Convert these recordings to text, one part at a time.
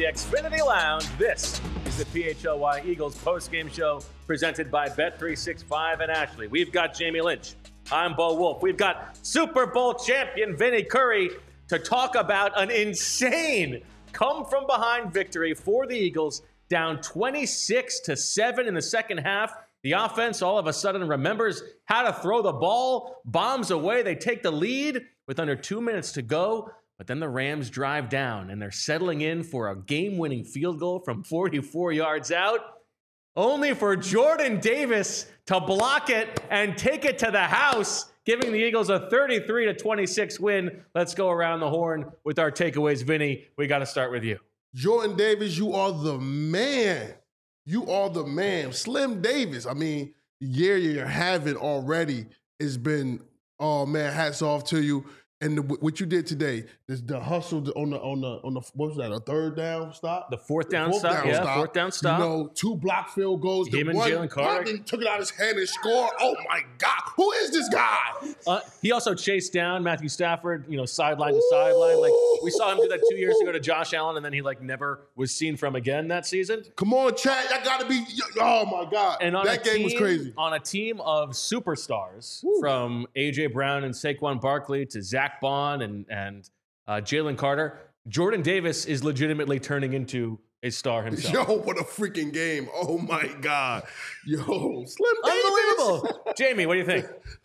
the Xfinity Lounge. This is the PHLY Eagles postgame show presented by Bet365 and Ashley. We've got Jamie Lynch. I'm Bo Wolf. We've got Super Bowl champion Vinny Curry to talk about an insane come-from-behind victory for the Eagles, down 26-7 in the second half. The offense all of a sudden remembers how to throw the ball, bombs away. They take the lead with under 2 minutes to go. But then the Rams drive down, and they're settling in for a game-winning field goal from 44 yards out, only for Jordan Davis to block it and take it to the house, giving the Eagles a 33-26 win. Let's go around the horn with our takeaways. Vinny, we got to start with you. Jordan Davis, you are the man. You are the man. Slim Davis, I mean, the year you're having already has been, oh man, hats off to you. And what you did today, the hustle on the what was that, a third down stop? The fourth down stop. Fourth down stop. You know, 2 block field goals. Him and Jalen Carter. Took it out of his hand and scored. Oh my God, who is this guy? He also chased down Matthew Stafford, sideline to sideline. Like we saw him do that 2 years ago to Josh Allen, and then he never was seen from again that season. Come on, Chad, that got to be. Oh my God, and that game was crazy. On a team of superstars, from AJ Brown and Saquon Barkley to Zach Bond and Jalen Carter, Jordan Davis is legitimately turning into a star himself. Yo, what a freaking game. Oh, my God. Yo, Slim Davis. Unbelievable. Jamie, what do you think?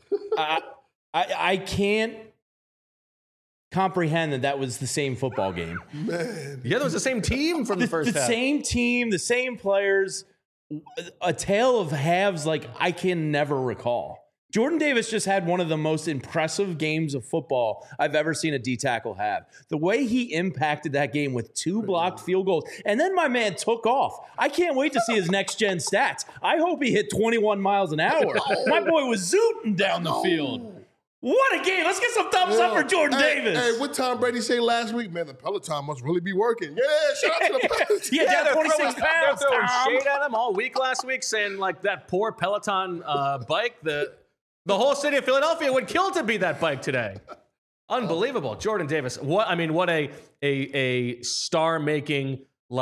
I can't comprehend that was the same football game. Man. Yeah, that was the same team from the first half. The same team, the same players, a tale of halves like I can never recall. Jordan Davis just had one of the most impressive games of football I've ever seen a D-tackle have. The way he impacted that game with 2 blocked field goals, and then my man took off. I can't wait to see his next-gen stats. I hope he hit 21 miles an hour. My boy was zooting down the field. What a game. Let's get some thumbs up for Jordan Davis. Hey, what Tom Brady say last week? Man, the Peloton must really be working. Yeah, shout out to the Peloton. Yeah, down 26 pounds, They're throwing shade at him all week last week, saying like that poor Peloton bike, the whole city of Philadelphia would kill to be that bike today. Unbelievable. Jordan Davis. What a star-making,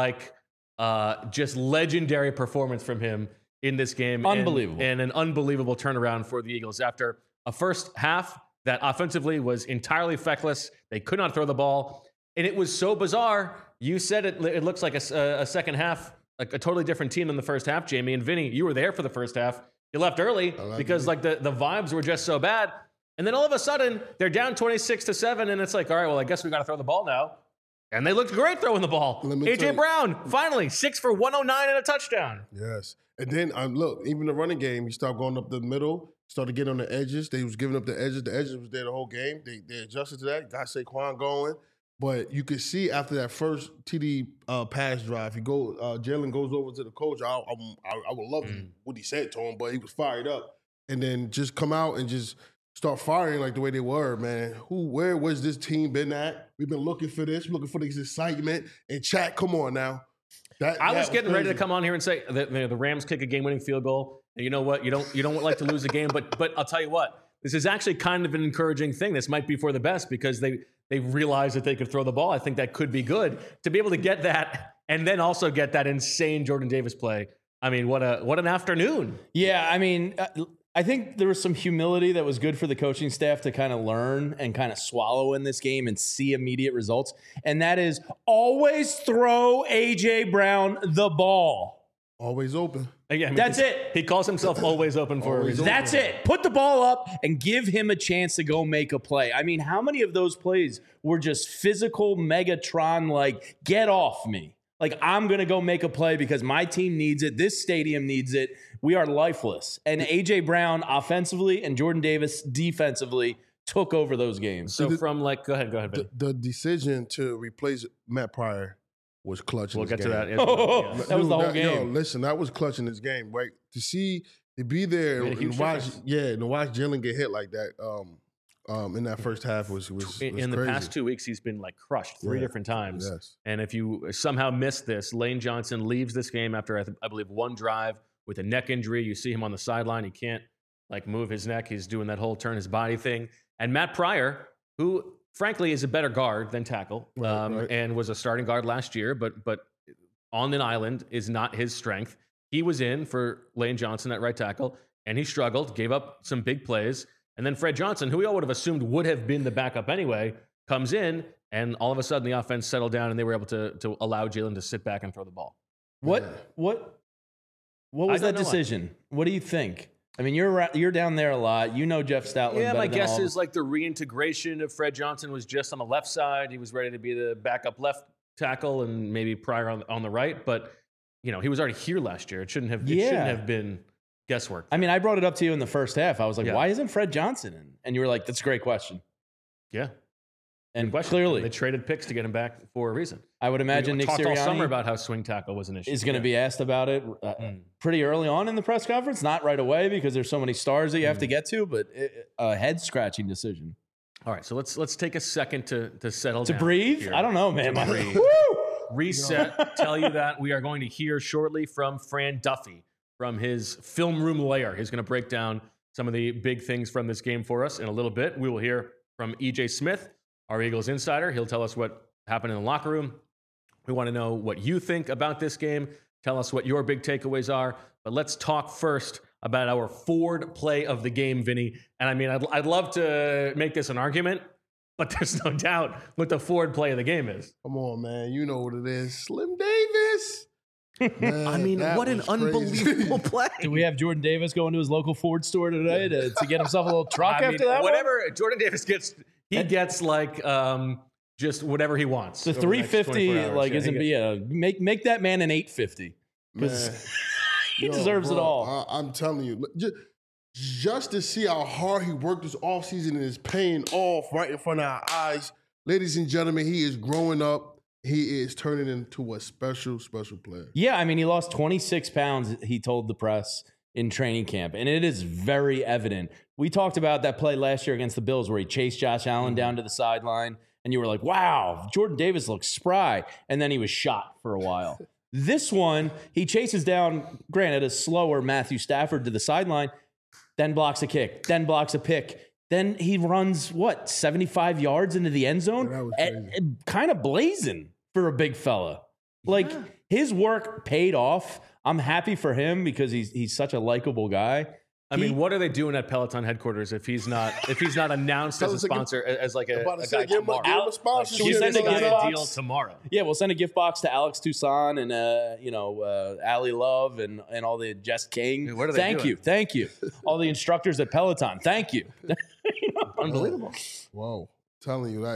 just legendary performance from him in this game. Unbelievable. And an unbelievable turnaround for the Eagles after a first half that offensively was entirely feckless. They could not throw the ball. And it was so bizarre. You said it looks like a second half, like a totally different team than the first half, Jamie. And Vinny, you were there for the first half. You left early because the vibes were just so bad. And then all of a sudden, they're down 26-7, and it's like, all right, well, I guess we got to throw the ball now. And they looked great throwing the ball. AJ Brown, finally, 6 for 109 and a touchdown. Yes. And then, look, even the running game, you start going up the middle, started getting on the edges. They was giving up the edges. The edges was there the whole game. They adjusted to that. Got Saquon going. But you could see after that first TD pass drive, Jalen goes over to the coach. I would love what he said to him, but he was fired up. And then just come out and just start firing like the way they were, man. Where was this team been at? We've been looking for this, looking for this excitement. And chat, come on now. I was getting ready to come on here and say that the Rams kick a game-winning field goal. And you know what? You don't like to lose a game, but I'll tell you what. This is actually kind of an encouraging thing. This might be for the best because they realized that they could throw the ball. I think that could be good to be able to get that and then also get that insane Jordan Davis play. I mean, what an afternoon. Yeah, I mean, I think there was some humility that was good for the coaching staff to kind of learn and kind of swallow in this game and see immediate results. And that is always throw A.J. Brown the ball. Always open. Yeah, I mean, that's it. He calls himself always open for a reason. That's it. Put the ball up and give him a chance to go make a play. I mean, how many of those plays were just physical Megatron, like, get off me? Like, I'm going to go make a play because my team needs it. This stadium needs it. We are lifeless. And A.J. Brown offensively and Jordan Davis defensively took over those games. So go ahead, Ben. The decision to replace Matt Pryor was clutch in this game. We'll get to that. That was the whole game. Yo, listen, that was clutch in this game, right? To be there and watch Jalen get hit like that in that first half was in crazy. the past 2 weeks, he's been like crushed 3 different times. Yes. And if you somehow missed this, Lane Johnson leaves this game after I believe one drive with a neck injury. You see him on the sideline. He can't like move his neck. He's doing that whole turn his body thing. And Matt Pryor, who frankly, is a better guard than tackle, Right. and was a starting guard last year, but on an island is not his strength. He was in for Lane Johnson at right tackle, and he struggled, gave up some big plays. And then Fred Johnson, who we all would have assumed would have been the backup anyway, comes in, and all of a sudden the offense settled down, and they were able to allow Jalen to sit back and throw the ball. What was that decision? What do you think? I mean, you're down there a lot. You know Jeff Stoutland. Yeah, my better than guess all of is like the reintegration of Fred Johnson was just on the left side. He was ready to be the backup left tackle, and maybe Pryor on the right. But he was already here last year. It shouldn't have been guesswork. I mean, I brought it up to you in the first half. I was like, Yeah. why isn't Fred Johnson in? And you were like, that's a great question. Yeah. And Question. clearly, They traded picks to get him back for a reason. I would imagine We Nick talked all summer Sirianni about how swing tackle was an issue. is going to be asked about it pretty early on in the press conference. Not right away because there's so many stars that you have to get to, but a head-scratching decision. All right, so let's take a second to settle down. To breathe? here. I don't know, man. To breathe. Woo! Reset. Tell you that we are going to hear shortly from Fran Duffy from his film room lair. He's going to break down some of the big things from this game for us in a little bit. We will hear from EJ Smith, our Eagles insider. He'll tell us what happened in the locker room. We want to know what you think about this game. Tell us what your big takeaways are. But let's talk first about our Ford play of the game, Vinny. And I mean, I'd love to make this an argument, but there's no doubt what the Ford play of the game is. Come on, man. You know what it is. Slim Davis. Man, I mean, that what an was crazy. unbelievable play. Do we have Jordan Davis going to his local Ford store today to get himself a little truck after that? Whatever Jordan Davis gets, he gets like just whatever he wants. The over the next 350 24 hours. like Yeah, isn't he be a make that man an 850 because Man. he Yo, deserves it bro, all. I'm telling you, just to see how hard he worked this offseason and is paying off right in front of our eyes. Ladies and gentlemen, he is growing up. He is turning into a special, special player. Yeah, I mean, he lost 26 pounds, he told the press in training camp, and it is very evident. We talked about that play last year against the Bills where he chased Josh Allen down to the sideline, and you were like, wow, Jordan Davis looks spry, and then he was shot for a while. This one, he chases down, granted, a slower Matthew Stafford to the sideline, then blocks a kick, then blocks a pick. Then he runs, 75 yards into the end zone? Yeah, that was crazy. Kind of blazing for a big fella. Like, his work paid off. I'm happy for him because he's such a likable guy. I mean, what are they doing at Peloton headquarters if he's not announced as a sponsor, as like a guy tomorrow? Give him a sponsorship. Should we send a Give gift him a box? deal tomorrow. Yeah, we'll send a gift box to Alex Toussaint and Ali Love and all the Jess King. Dude, what are they doing? Thank you. All the instructors at Peloton. Thank you. Unbelievable. Whoa. Telling you,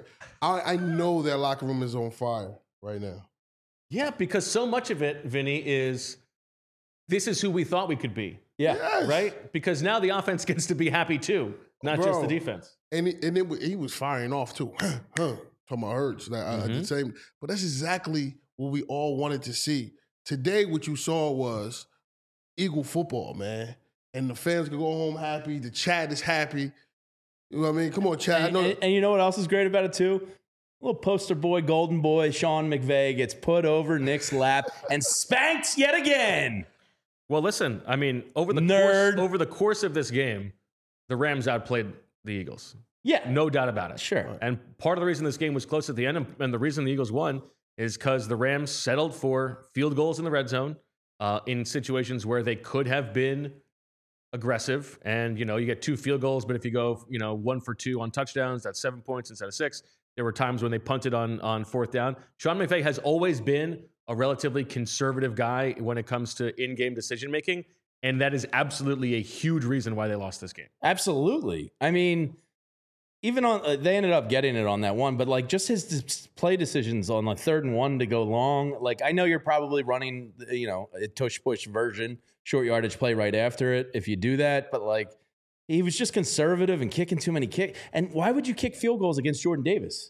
I know that locker room is on fire right now. Yeah, because so much of it, Vinny, is this is who we thought we could be, Yeah. Yes. right? Because now the offense gets to be happy too, not just the defense. And he was firing off too. Talking about Hurts. The same, but that's exactly what we all wanted to see. Today, what you saw was Eagle football, man. And the fans can go home happy. The chat is happy. You know what I mean? Come on, chat. I know. And you know what else is great about it too? Little poster boy, golden boy, Sean McVay gets put over Nick's lap and spanked yet again. Well, listen, I mean, over Nerd. the course of this game, the Rams outplayed the Eagles. Yeah. No doubt about it. Sure. And part of the reason this game was close at the end and the reason the Eagles won is because the Rams settled for field goals in the red zone in situations where they could have been aggressive. And, you get 2 field goals, but if you go, 1 for 2 on touchdowns, that's 7 points instead of 6. There were times when they punted on fourth down. Sean McVay has always been a relatively conservative guy when it comes to in-game decision-making, and that is absolutely a huge reason why they lost this game. Absolutely. I mean, even on they ended up getting it on that one, but like just his play decisions on like 3rd and 1 to go long. Like I know you're probably running, a tush push version, short yardage play right after it if you do that, but like he was just conservative and kicking too many kicks. And why would you kick field goals against Jordan Davis?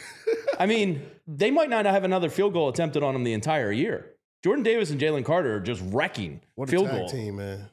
I mean, they might not have another field goal attempted on him the entire year. Jordan Davis and Jalen Carter are just wrecking What a field tag goal. team, man.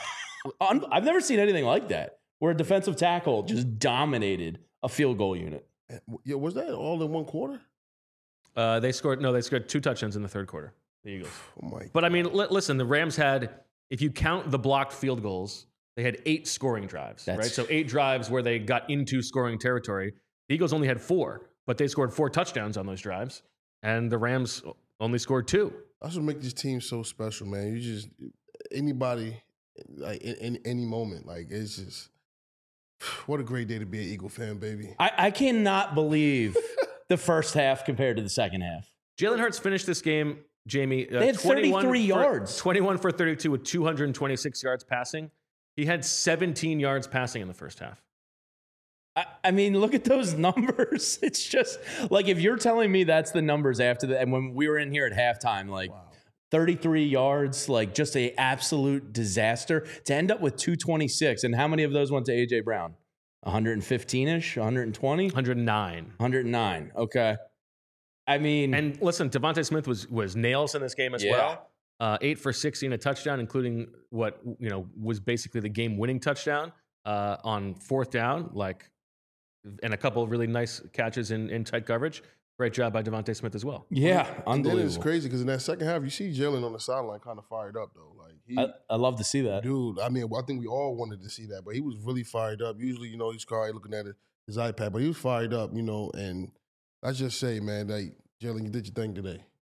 I've never seen anything like that, where a defensive tackle just dominated a field goal unit. Yeah, was that all in one quarter? They scored 2 touchdowns in the 3rd quarter, the Eagles. Oh my! But I mean, listen, the Rams had, if you count the blocked field goals, they had 8 scoring drives, right? So 8 drives where they got into scoring territory. The Eagles only had 4, but they scored 4 touchdowns on those drives, and the Rams only scored 2. That's what makes this team so special, man. You just anybody like in any moment, like it's just what a great day to be an Eagle fan, baby. I cannot believe the first half compared to the second half. Jalen Hurts finished this game, Jamie. They had 33 yards. 21 for 32 with 226 yards passing. He had 17 yards passing in the first half. I mean, look at those numbers. It's just like if you're telling me that's the numbers after that, and when we were in here at halftime, like 33 yards, like just a absolute disaster to end up with 226. And how many of those went to A.J. Brown? 115-ish, 120? 109. Okay. I mean, and listen, Devontae Smith was nails in this game as well. 8 for 16, a touchdown, including what was basically the game-winning touchdown on 4th down, and a couple of really nice catches in tight coverage. Great job by Devontae Smith as well. Yeah, unbelievable. And then it's crazy because in that second half, you see Jalen on the sideline kind of fired up though. Like I love to see that, dude. I mean, I think we all wanted to see that, but he was really fired up. Usually, he's quiet looking at his iPad, but he was fired up, and I just say, man, like Jalen, you did your thing today.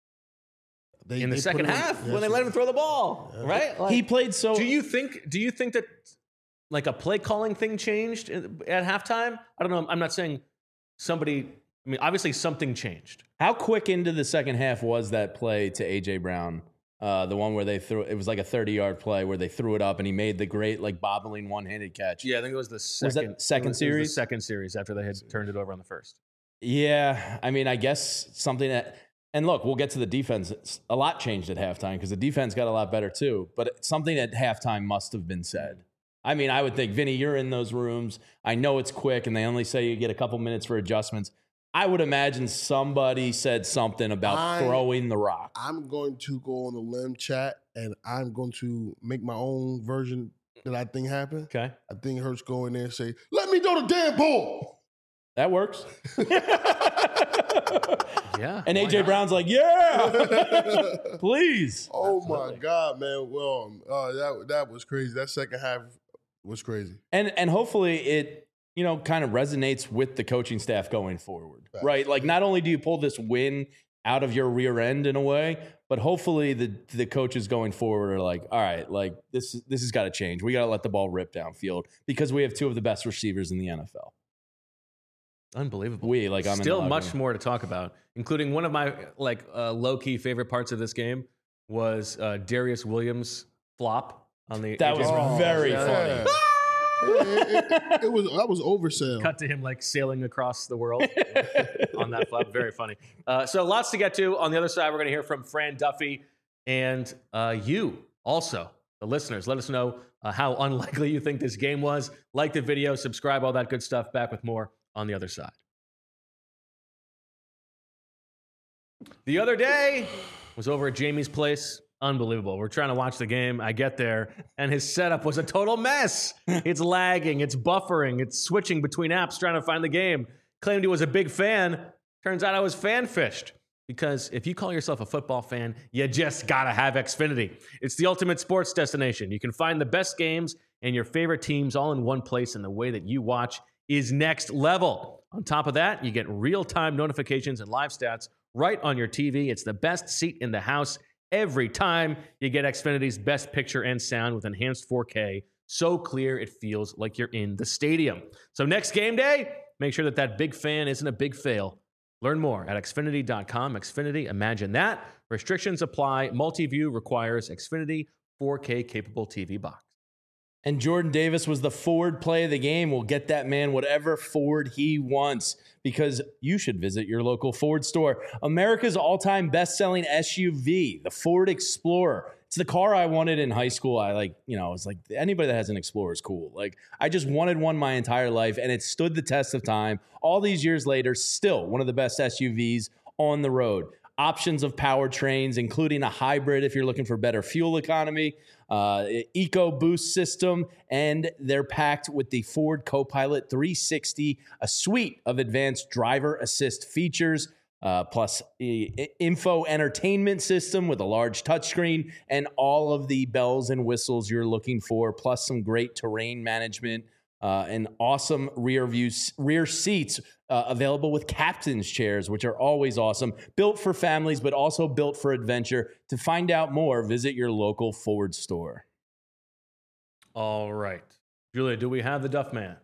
In the second half, when they let him throw the ball, right? He played so. Do you think that like a play calling thing changed at halftime? I don't know. I'm not saying somebody. I mean, obviously something changed. How quick into the second half was that play to A.J. Brown? The one where they threw it was like a 30-yard play where they threw it up and he made the great bobbling one-handed catch. Yeah, I think it was the second. Was that second series? It was the second series after they had turned it over on the first. Yeah, I mean, I guess something that. And look, we'll get to the defense. A lot changed at halftime because the defense got a lot better too. But something at halftime must have been said. I mean, I would think, Vinny, you're in those rooms. I know it's quick and they only say you get a couple minutes for adjustments. I would imagine somebody said something about throwing the rock. I'm going to go on the limb chat and I'm going to make my own version that I think happened. Okay. I think Hurts go in there and say, let me throw the damn ball. That works. Yeah. And A.J. Brown's like, yeah, please. Oh, absolutely. My God, man. Well, that was crazy. That second half was crazy. And hopefully it, kind of resonates with the coaching staff going forward, right? Like not only do you pull this win out of your rear end in a way, but hopefully the coaches going forward are like, all right, like this has got to change. We got to let the ball rip downfield because we have 2 of the best receivers in the NFL. Unbelievable. I'm still much more to talk about, including one of my low-key favorite parts of this game was Darius Williams' flop on the. That was very funny. That was oversell. Cut to him sailing across the world on that flop. Very funny. So lots to get to. On the other side, we're going to hear from Fran Duffy and you also, the listeners. Let us know how unlikely you think this game was. Like the video, subscribe, all that good stuff. Back with more on the other side. The other day was over at Jamie's place. Unbelievable. We're trying to watch the game. I get there, and his setup was a total mess. It's lagging. It's buffering. It's switching between apps trying to find the game. Claimed he was a big fan. Turns out I was fan-fished. Because if you call yourself a football fan, you just got to have Xfinity. It's the ultimate sports destination. You can find the best games and your favorite teams all in one place, and the way that you watch is next level. On top of that, you get real-time notifications and live stats right on your TV. It's the best seat in the house every time. You get Xfinity's best picture and sound with enhanced 4K. So clear, it feels like you're in the stadium. So next game day, make sure that big fan isn't a big fail. Learn more at Xfinity.com. Xfinity, imagine that. Restrictions apply. Multi-view requires Xfinity 4K capable TV box. And Jordan Davis was the Ford play of the game. We'll get that man whatever Ford he wants because you should visit your local Ford store. America's all-time best-selling SUV, the Ford Explorer. It's the car I wanted in high school. It's like anybody that has an Explorer is cool. I just wanted one my entire life, and it stood the test of time. All these years later, still one of the best SUVs on the road. Options of powertrains, including a hybrid if you're looking for better fuel economy, EcoBoost system, and they're packed with the Ford Copilot 360, a suite of advanced driver assist features, plus info entertainment system with a large touchscreen and all of the bells and whistles you're looking for, plus some great terrain management and awesome rear seats available with captain's chairs, which are always awesome. Built for families, but also built for adventure. To find out more, visit your local Ford store. All right. Julia, do we have the Duff Man?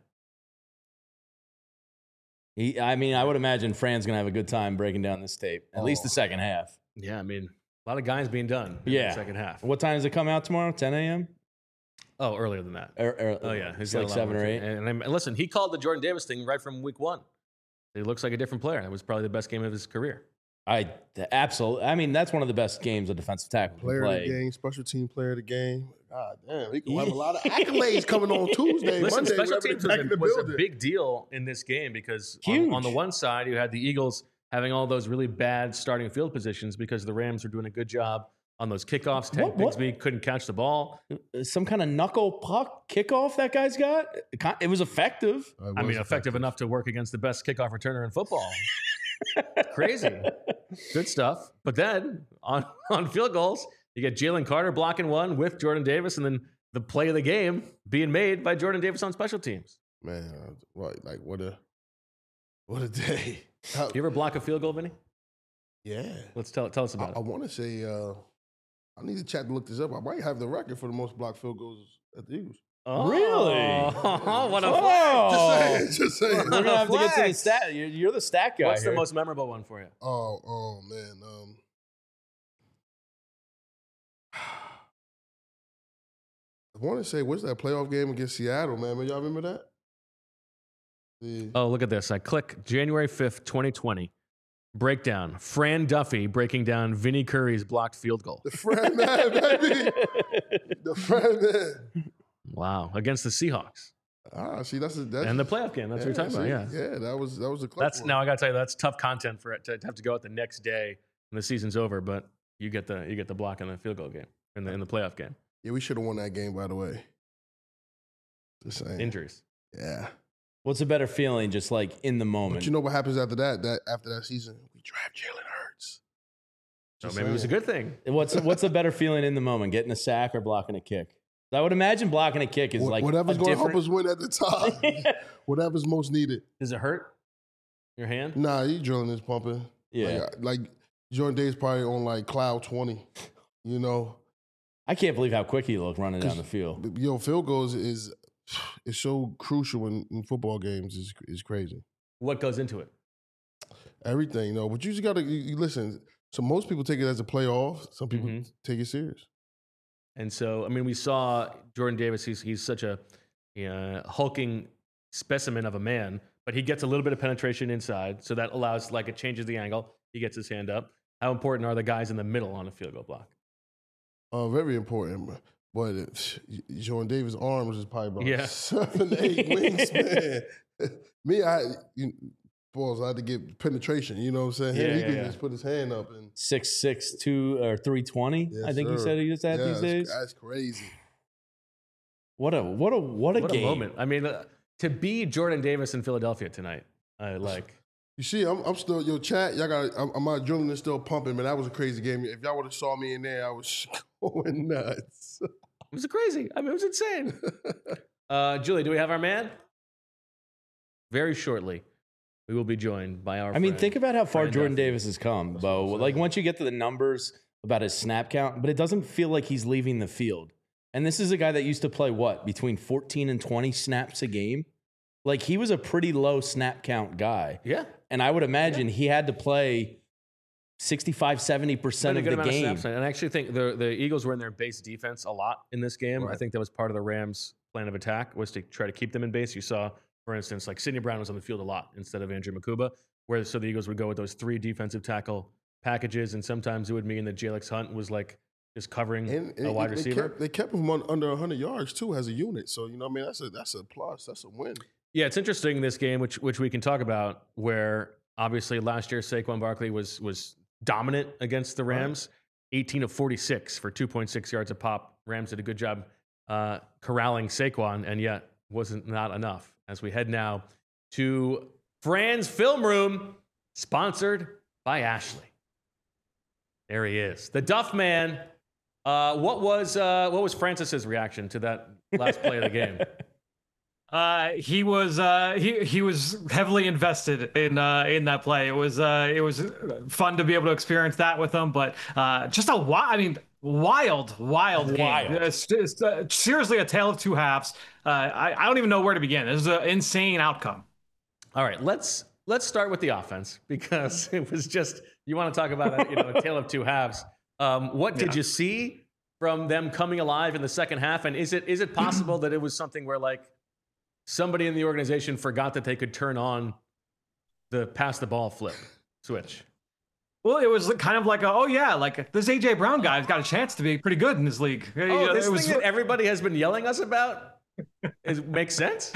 I would imagine Fran's going to have a good time breaking down this tape, at least the second half. Yeah, I mean, a lot of guys being done in the second half. What time does it come out tomorrow? 10 a.m.? Oh, earlier than that. Oh, yeah. It's like 7 or 8. And listen, he called the Jordan Davis thing right from week 1. He looks like a different player. That was probably the best game of his career. Absolutely. I mean, that's one of the best games a defensive tackle can play. Player of the game, special team player of the game. God damn, he can have a lot of accolades coming on Tuesday, Listen, Monday. special teams was a big deal in this game because on the one side, you had the Eagles having all those really bad starting field positions because the Rams were doing a good job on those kickoffs. Ted Bigsby couldn't catch the ball. Some kind of knuckle puck kickoff that guy's got? It was effective. Effective enough to work against the best kickoff returner in football. Crazy. Good stuff. But then on field goals, you get Jalen Carter blocking one with Jordan Davis, and then the play of the game being made by Jordan Davis on special teams. Man, what a day. You ever block a field goal, Vinny? Yeah. Tell us about it. I want to say, I need to chat to look this up. I might have the record for the most blocked field goals at the Eagles. Oh, really? What a flex. Just saying. We're going to have to get to the stat. You're the stat guy. What's the most memorable one for you? Oh man. I want to say, what's that playoff game against Seattle, man? Y'all remember that? Oh, look at this. I click January 5th, 2020. Breakdown. Fran Duffy breaking down Vinny Curry's blocked field goal. The Fran man, baby. The Fran man. Wow. Against the Seahawks. See, that's and the playoff game. That's what you're talking about. Yeah. Yeah, that was a close one. Now I got to tell you, that's tough content for it to have to go out the next day when the season's over, but you get the block in the field goal game in the playoff game. Yeah, we should have won that game, by the way. Just saying. Injuries. Yeah. What's a better feeling, just like in the moment? But you know what happens after that? After that season, we draft Jalen Hurts. So maybe it was a good thing. What's a better feeling in the moment, getting a sack or blocking a kick? I would imagine blocking a kick is like whatever's going to help us win at the time. Whatever's most needed. Does it hurt your hand? Nah, your adrenaline is pumping. Yeah, like Jordan Davis probably on like cloud 20. You know. I can't believe how quick he looked running down the field. Field goals is so crucial in football games. Is crazy. What goes into it? Everything, but you just got to listen. So most people take it as a playoff. Some people take it serious. And so, I mean, we saw Jordan Davis. He's such a hulking specimen of a man, but he gets a little bit of penetration inside, so that allows it changes the angle. He gets his hand up. How important are the guys in the middle on a field goal block? Very important. But Jordan Davis' arms is probably about 7, 8 wingspan. Me, I had to get penetration. You know what I'm saying? He could just put his hand up and 6'6", or 320. Yes, I think he said he was at these days. That's crazy. What a game. Moment. I mean, to be Jordan Davis in Philadelphia tonight, You see, I'm still chat. Y'all got. My adrenaline is still pumping, man. That was a crazy game. If y'all would have saw me in there, I was going nuts. It was crazy. I mean, it was insane. Julie, do we have our man? Very shortly, we will be joined by our. Think about how far Jordan Davis has come, Bo. Like once you get to the numbers about his snap count, but it doesn't feel like he's leaving the field. And this is a guy that used to play between 14 and 20 snaps a game. Like he was a pretty low snap count guy. Yeah. And I would imagine he had to play 65, 70% of the game. And I actually think the Eagles were in their base defense a lot in this game. Right. I think that was part of the Rams' plan of attack was to try to keep them in base. You saw, for instance, like Sidney Brown was on the field a lot instead of Andrew Makuba, so the Eagles would go with those 3 defensive tackle packages, and sometimes it would mean that Jalix Hunt was like just covering a wide receiver. They kept him under 100 yards too as a unit. So that's a plus. That's a win. Yeah, it's interesting in this game, which we can talk about, where obviously last year Saquon Barkley was dominant against the Rams, 18 of 46 for 2.6 yards a pop. Rams did a good job corralling Saquon, and yet wasn't not enough. As we head now to Fran's Film Room, sponsored by Ashley. There he is, the Duff Man. What was Francis's reaction to that last play of the game? He was heavily invested in that play. It was fun to be able to experience that with him, but just a wild game. It's seriously a tale of two halves. I don't even know where to begin. This is an insane outcome. All right, let's start with the offense, because it was just, you want to talk about a tale of two halves. What did you see from them coming alive in the second half, and is it possible that it was something where like somebody in the organization forgot that they could turn on the pass the ball flip switch? Well, it was kind of like, like this AJ Brown guy's got a chance to be pretty good in this league. This thing that everybody has been yelling us about makes sense.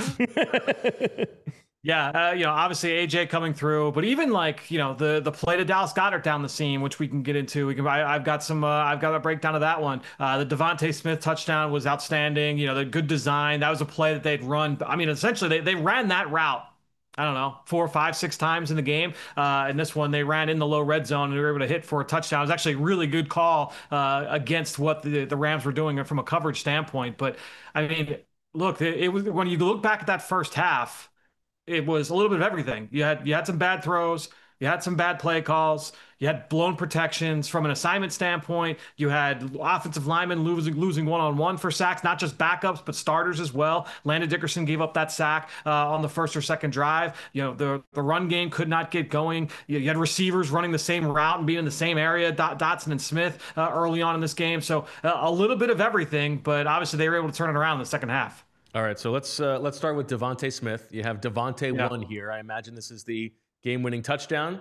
Yeah, obviously AJ coming through, but even like, the play to Dallas Goedert down the seam, which we can get into. I've got a breakdown of that one. The Devontae Smith touchdown was outstanding. The good design. That was a play that they'd run. I mean, essentially they ran that route, I don't know, 4, 5, 6 times in the game. And this one, they ran in the low red zone and they were able to hit for a touchdown. It was actually a really good call against what the Rams were doing from a coverage standpoint. But I mean, look, it was, when you look back at that first half, it was a little bit of everything. You had some bad throws. You had some bad play calls. You had blown protections from an assignment standpoint. You had offensive linemen losing one-on-one for sacks, not just backups, but starters as well. Landon Dickerson gave up that sack on the first or second drive. The run game could not get going. You had receivers running the same route and being in the same area, Dotson and Smith early on in this game. So a little bit of everything, but obviously they were able to turn it around in the second half. All right, so let's start with Devontae Smith. You have Devontae 1 here. I imagine this is the game-winning touchdown.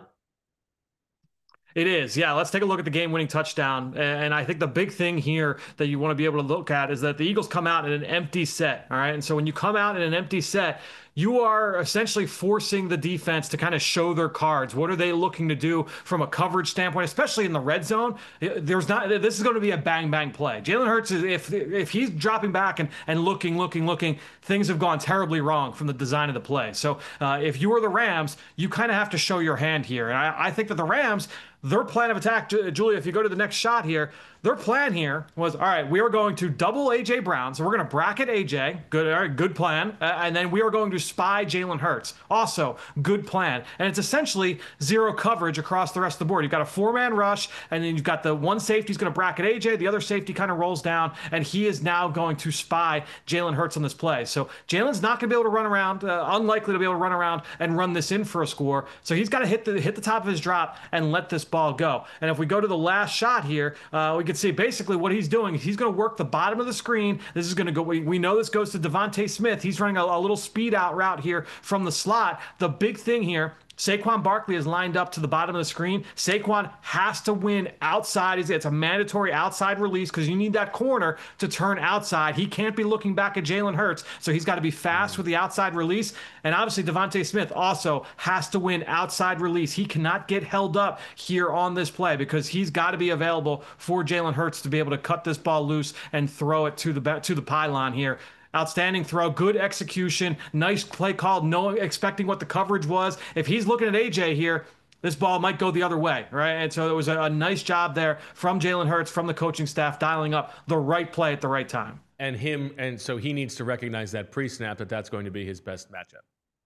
It is, yeah. Let's take a look at the game-winning touchdown. And I think the big thing here that you want to be able to look at is that the Eagles come out in an empty set, all right? And so when you come out in an empty set, you are essentially forcing the defense to kind of show their cards. What are they looking to do from a coverage standpoint, especially in the red zone? This is going to be a bang play. Jalen Hurts, if he's dropping back and looking, things have gone terribly wrong from the design of the play. So if you are the Rams, you kind of have to show your hand here. And I think that the Rams, their plan of attack, Julia, if you go to the next shot here, their plan here was, all right, we are going to double A.J. Brown. So we're going to bracket A.J. Good, all right, good plan. And then we are going to spy Jalen Hurts. Also, good plan. And it's essentially zero coverage across the rest of the board. You've got a 4-man rush, and then you've got the one safety is going to bracket A.J. The other safety kind of rolls down, and he is now going to spy Jalen Hurts on this play. So Jalen's not going to be able to run around, unlikely to be able to run around and run this in for a score. So he's got to hit the top of his drop and let this ball go. And if we go to the last shot here, we can see basically what he's doing. He's going to work the bottom of the screen. This is going to go. We know this goes to Devontae Smith. He's running a little speed out route here from the slot. The big thing here, Saquon Barkley is lined up to the bottom of the screen. Saquon has to win outside. It's a mandatory outside release because you need that corner to turn outside. He can't be looking back at Jalen Hurts, so he's got to be fast with the outside release. And obviously, Devontae Smith also has to win outside release. He cannot get held up here on this play because he's got to be available for Jalen Hurts to be able to cut this ball loose and throw it to the pylon here. Outstanding throw, good execution, nice play call, no expecting what the coverage was. If he's looking at AJ here, this ball might go the other way, right? And so it was a nice job there from Jalen Hurts, from the coaching staff, dialing up the right play at the right time. And so he needs to recognize that pre-snap that's going to be his best matchup.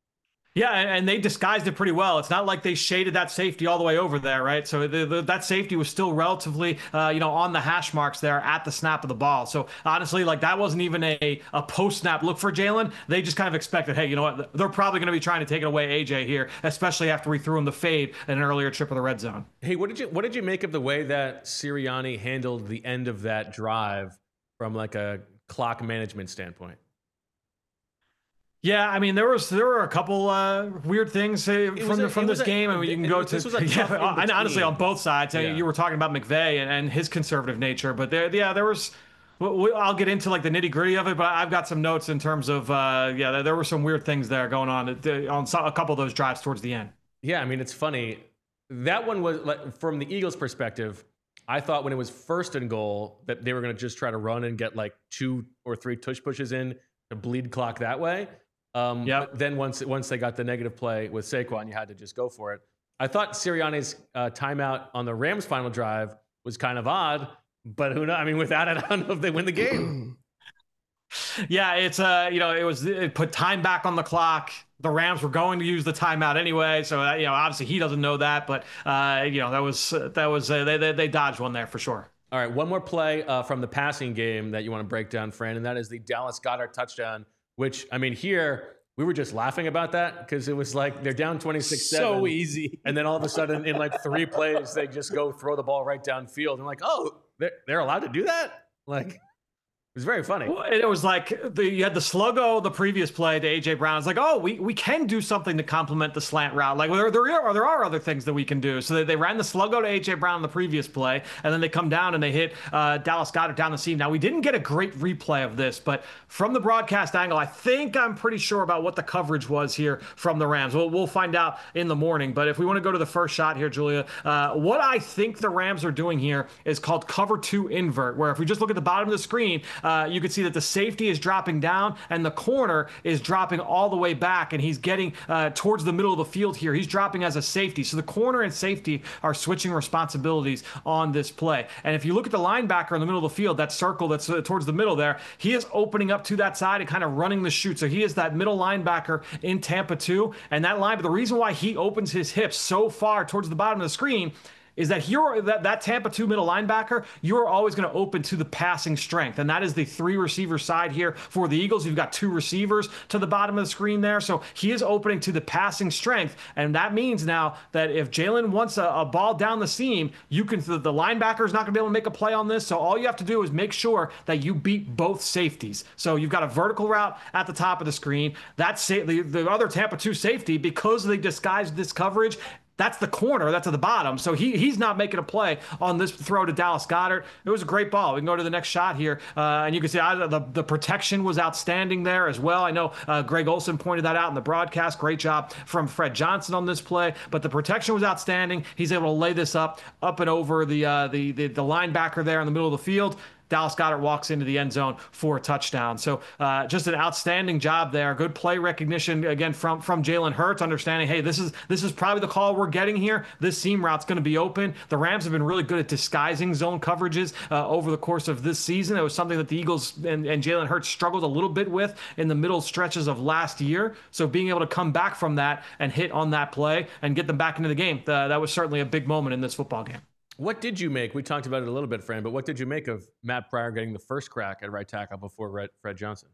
Yeah, and they disguised it pretty well. It's not like they shaded that safety all the way over there, right? So that safety was still relatively, on the hash marks there at the snap of the ball. So honestly, like that wasn't even a post-snap look for Jalen. They just kind of expected, hey, you know what? They're probably going to be trying to take it away AJ here, especially after we threw him the fade in an earlier trip of the red zone. Hey, what did you make of the way that Sirianni handled the end of that drive from like a clock management standpoint? Yeah, I mean, there were a couple weird things from this game, and you can go to and honestly on both sides. Yeah. You were talking about McVay and his conservative nature, but there was. I'll get into like the nitty gritty of it, but I've got some notes in terms of there were some weird things there going on a couple of those drives towards the end. Yeah, I mean, it's funny. That one was like, from the Eagles' perspective, I thought when it was first and goal that they were going to just try to run and get like 2 or 3 tush pushes in to bleed clock that way. But then once they got the negative play with Saquon, you had to just go for it. I thought Sirianni's timeout on the Rams' final drive was kind of odd, but who knows? I mean, without it, I don't know if they win the game. Yeah, it's it put time back on the clock. The Rams were going to use the timeout anyway, so obviously he doesn't know that, but they dodged one there for sure. All right, one more play from the passing game that you want to break down, Fran, and that is the Dallas Goedert touchdown, which, I mean, here we were just laughing about that because it was like they're down 26-7. So easy. And then all of a sudden, in like 3 plays, they just go throw the ball right downfield. And like, oh, they're allowed to do that? Like, it was very funny. Well, it was like you had the sluggo the previous play to A.J. Brown. It's like, oh, we can do something to complement the slant route. Like there are other things that we can do. So they ran the sluggo to A.J. Brown the previous play, and then they come down and they hit Dallas Goedert down the seam. Now, we didn't get a great replay of this, but from the broadcast angle, I'm pretty sure about what the coverage was here from the Rams. We'll find out in the morning. But if we want to go to the first shot here, Julia, what I think the Rams are doing here is called cover 2 invert, where if we just look at the bottom of the screen, you can see that the safety is dropping down and the corner is dropping all the way back, and he's getting towards the middle of the field here. He's dropping as a safety. So the corner and safety are switching responsibilities on this play. And if you look at the linebacker in the middle of the field, that circle that's towards the middle there, he is opening up to that side and kind of running the chute. So he is that middle linebacker in Tampa 2. And the reason why he opens his hips so far towards the bottom of the screen is that that Tampa 2 middle linebacker, you're always going to open to the passing strength. And that is the 3 receiver side here for the Eagles. You've got 2 receivers to the bottom of the screen there. So he is opening to the passing strength. And that means now that if Jalen wants a ball down the seam, the linebacker is not going to be able to make a play on this. So all you have to do is make sure that you beat both safeties. So you've got a vertical route at the top of the screen. That's the other Tampa 2 safety, because they disguised this coverage, that's the corner that's at the bottom. So he's not making a play on this throw to Dallas Goedert. It was a great ball. We can go to the next shot here. And you can see the protection was outstanding there as well. I know Greg Olsen pointed that out in the broadcast. Great job from Fred Johnson on this play. But the protection was outstanding. He's able to lay this up and over the linebacker there in the middle of the field. Dallas Goedert walks into the end zone for a touchdown. So just an outstanding job there. Good play recognition again from Jalen Hurts, understanding, hey, this is probably the call we're getting here. This seam route's going to be open. The Rams have been really good at disguising zone coverages over the course of this season. It was something that the Eagles and Jalen Hurts struggled a little bit with in the middle stretches of last year. So being able to come back from that and hit on that play and get them back into the game, that was certainly a big moment in this football game. What did you make? We talked about it a little bit, Fran, but what did you make of Matt Pryor getting the first crack at right tackle before Fred Johnson?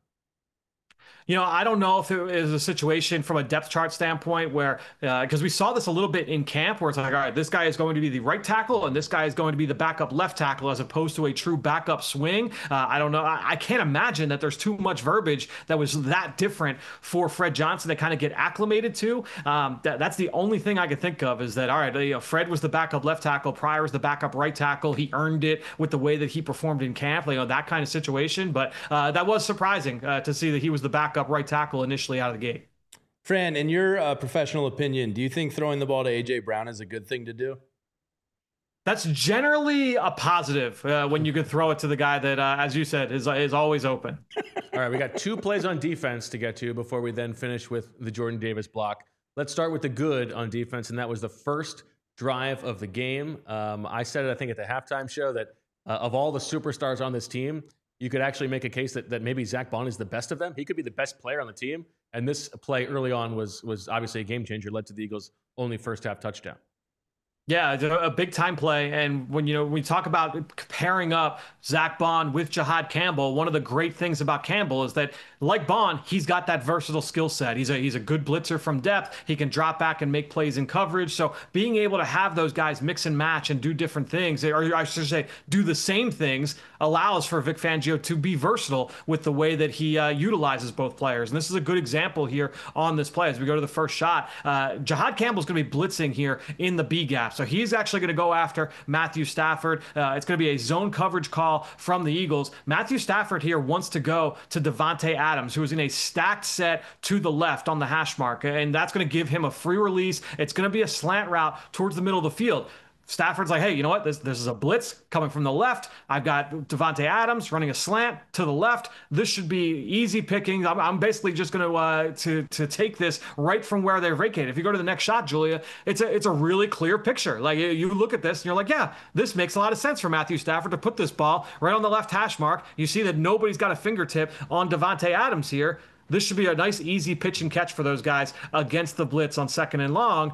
I don't know if it is a situation from a depth chart standpoint where, because we saw this a little bit in camp where it's like, all right, this guy is going to be the right tackle and this guy is going to be the backup left tackle as opposed to a true backup swing. I don't know. I can't imagine that there's too much verbiage that was that different for Fred Johnson to kind of get acclimated to. That's the only thing I could think of is that, all right, Fred was the backup left tackle. Pryor was the backup right tackle. He earned it with the way that he performed in camp, that kind of situation. But that was surprising to see that he was the backup right tackle initially out of the gate. Fran, in your professional opinion, do you think throwing the ball to A.J. Brown is a good thing to do? That's generally a positive when you can throw it to the guy that, as you said, is always open. All right, we got 2 plays on defense to get to before we then finish with the Jordan Davis block. Let's start with the good on defense, and that was the first drive of the game. I said it, I think, at the halftime show that of all the superstars on this team, you could actually make a case that maybe Zach Bond is the best of them. He could be the best player on the team. And this play early on was obviously a game changer, led to the Eagles' only first half touchdown. Yeah, a big time play. And when we talk about pairing up Zach Bond with Jihad Campbell, one of the great things about Campbell is that, like Bond, he's got that versatile skill set. He's a good blitzer from depth. He can drop back and make plays in coverage. So being able to have those guys mix and match and do different things, or I should say do the same things, allows for Vic Fangio to be versatile with the way that he utilizes both players. And this is a good example here on this play. As we go to the first shot, Jihad Campbell's going to be blitzing here in the B gap. So he's actually going to go after Matthew Stafford. It's going to be a zone coverage call from the Eagles. Matthew Stafford here wants to go to Devontae Adams, who is in a stacked set to the left on the hash mark. And that's going to give him a free release. It's going to be a slant route towards the middle of the field. Stafford's like, hey, you know what? This is a blitz coming from the left. I've got Davante Adams running a slant to the left. This should be easy pickings. I'm basically just going to take this right from where they're vacated. If you go to the next shot, Julia, it's a really clear picture. Like, you look at this and you're like, yeah, this makes a lot of sense for Matthew Stafford to put this ball right on the left hash mark. You see that nobody's got a fingertip on Davante Adams here. This should be a nice, easy pitch and catch for those guys against the blitz on 2nd and long.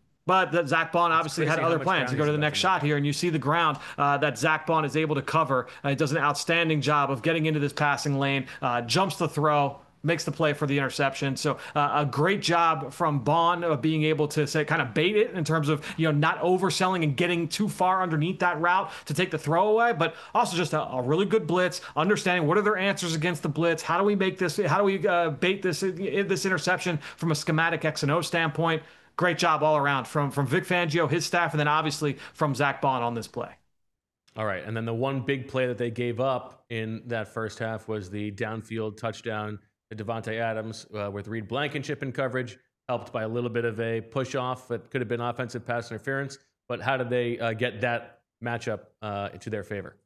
But Zach Bond obviously had other plans. You go to the next shot here, and you see the ground that Zach Bond is able to cover. He does an outstanding job of getting into this passing lane, jumps the throw, makes the play for the interception. So a great job from Bond of being able to say kind of bait it in terms of not overselling and getting too far underneath that route to take the throw away, but also just a really good blitz, understanding what are their answers against the blitz. How do we make this? How do we bait this interception from a schematic X and O standpoint? Great job all around from Vic Fangio, his staff, and then obviously from Zach Bond on this play. All right, and then the one big play that they gave up in that first half was the downfield touchdown to Davante Adams with Reed Blankenship in coverage, helped by a little bit of a push-off that could have been offensive pass interference. But how did they get that matchup into their favor?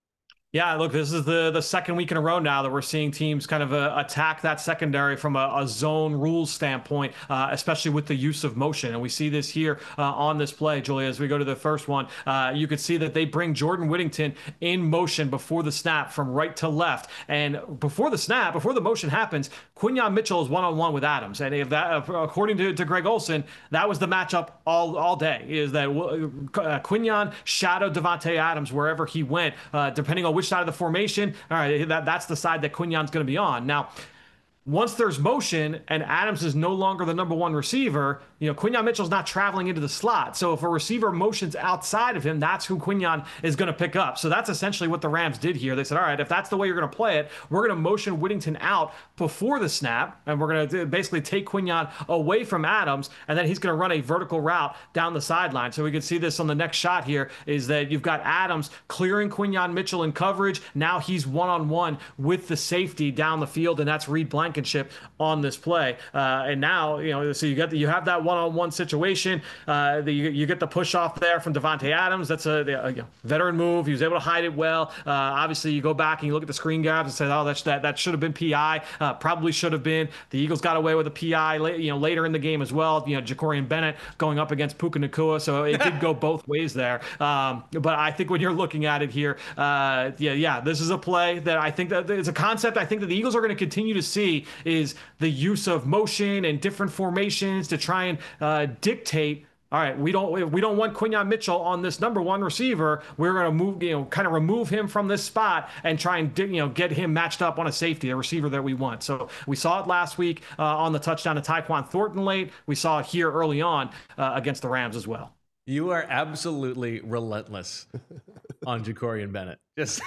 Yeah, look, this is the second week in a row now that we're seeing teams kind of attack that secondary from a zone rules standpoint, especially with the use of motion. And we see this here on this play, Julia, as we go to the first one. You could see that they bring Jordan Whittington in motion before the snap from right to left. And before the snap, before the motion happens, Quinyon Mitchell is one-on-one with Adams. And if that, according to Greg Olsen, that was the matchup all day, is that Quinyon shadowed Davante Adams wherever he went, depending on which side of the formation. All right, that's the side that Quinyon's going to be on. Now, once there's motion and Adams is no longer the number one receiver, Quinyon Mitchell's not traveling into the slot. So if a receiver motions outside of him, that's who Quinyon is going to pick up. So that's essentially what the Rams did here. They said, all right, if that's the way you're going to play it, we're going to motion Whittington out before the snap, and we're going to basically take Quinyon away from Adams, and then he's going to run a vertical route down the sideline. So we can see this on the next shot here, is that you've got Adams clearing Quinyon Mitchell in coverage. Now he's one-on-one with the safety down the field, and that's Reed Blankenship on this play. And now, so you have that one-on-one situation. You get the push off there from Davante Adams. That's a veteran move. He was able to hide it well. Obviously, you go back and you look at the screen grabs and say, oh, that should have been PI. Probably should have been. The Eagles got away with a PI later in the game as well. Jacorian Bennett going up against Puka Nacua, so it did go both ways there. But I think when you're looking at it here, this is a play that I think that it's a concept I think that the Eagles are going to continue to see, is the use of motion and different formations to try and dictate. All right, we don't want Quinyon Mitchell on this number one receiver. We're going to move, kind of remove him from this spot and try and get him matched up on a safety, a receiver that we want. So we saw it last week on the touchdown to Tyquan Thornton late. We saw it here early on against the Rams as well. You are absolutely relentless on Jacorian Bennett. Just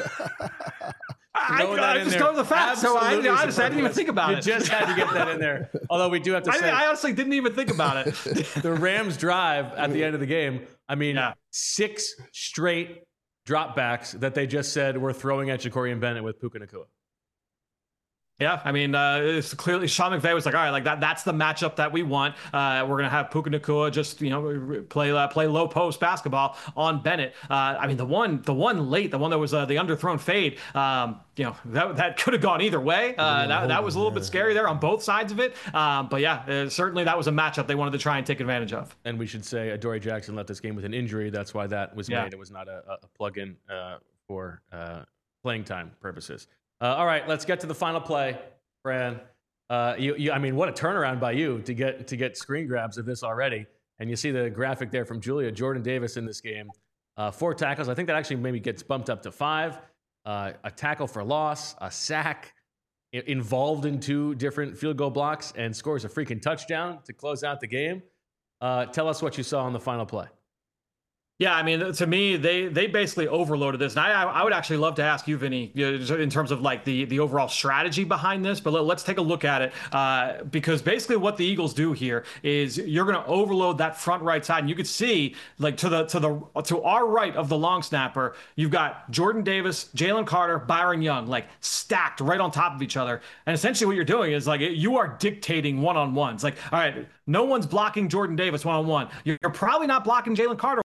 I just go to the facts, so I didn't even think about it. You just had to get that in there. Although we do have to say, I honestly didn't even think about it. The Rams drive at the end of the game, 6 straight dropbacks that they just said we're throwing at Jacorian Bennett with Puka Nacua. Yeah, I mean, it's clearly Sean McVay was like, all right, like that's the matchup that we want. We're gonna have Puka Nacua just play low post basketball on Bennett. I mean, the one late, the one that was the underthrown fade. That could have gone either way. That was a little bit scary there on both sides of it. But yeah, certainly that was a matchup they wanted to try and take advantage of. And we should say Adoree Jackson left this game with an injury. That's why that was made. It was not a plug-in for playing time purposes. All right, let's get to the final play, Fran. I mean, what a turnaround by you to get screen grabs of this already. And you see the graphic there from Julia. Jordan Davis in this game, 4 tackles. I think that actually maybe gets bumped up to 5. A tackle for loss, a sack, involved in 2 different field goal blocks, and scores a freaking touchdown to close out the game. Tell us what you saw on the final play. Yeah, I mean, to me, they basically overloaded this. And I would actually love to ask you, Vinny, in terms of like the overall strategy behind this. But let's take a look at it, because basically what the Eagles do here is you're going to overload that front right side. And you could see, like, to our right of the long snapper, you've got Jordan Davis, Jalen Carter, Byron Young, like stacked right on top of each other. And essentially what you're doing is like you are dictating one-on-ones. Like, all right, no one's blocking Jordan Davis one-on-one. You're probably not blocking Jalen Carter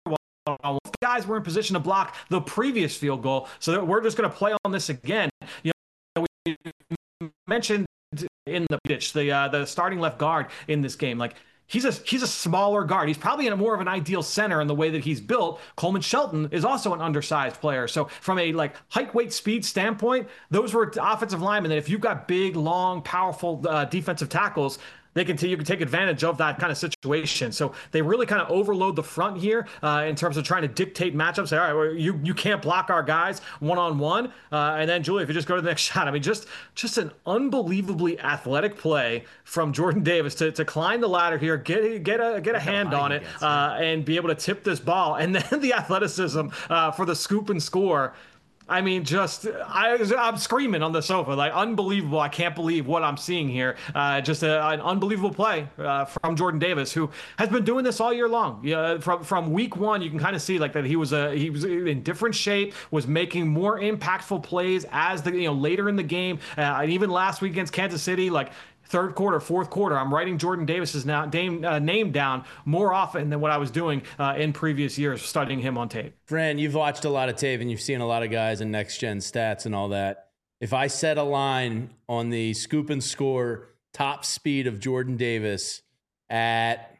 one. Guys were in position to block the previous field goal, so we're just going to play on this again. We mentioned in the pitch the starting left guard in this game, like he's a smaller guard. He's probably in a more of an ideal center in the way that he's built. Coleman Shelton is also an undersized player. So from a height, weight, speed standpoint, those were offensive linemen that if you've got big, long, powerful defensive tackles, you can take advantage of that kind of situation. So they really kind of overload the front here in terms of trying to dictate matchups. Say, all right, well, you can't block our guys one-on-one. And then, Julie, if you just go to the next shot, I mean, just an unbelievably athletic play from Jordan Davis to climb the ladder here, get a hand on it, and be able to tip this ball. And then the athleticism for the scoop and score. I mean, I'm screaming on the sofa, like unbelievable. I can't believe what I'm seeing here. Just an unbelievable play from Jordan Davis, who has been doing this all year long. From week one, you can kind of see like that he was in different shape, was making more impactful plays as later in the game, and even last week against Kansas City, like. Third quarter, fourth quarter, I'm writing Jordan Davis's name down more often than what I was doing in previous years, studying him on tape. Fran, you've watched a lot of tape and you've seen a lot of guys in next-gen stats and all that. If I set a line on the scoop and score top speed of Jordan Davis at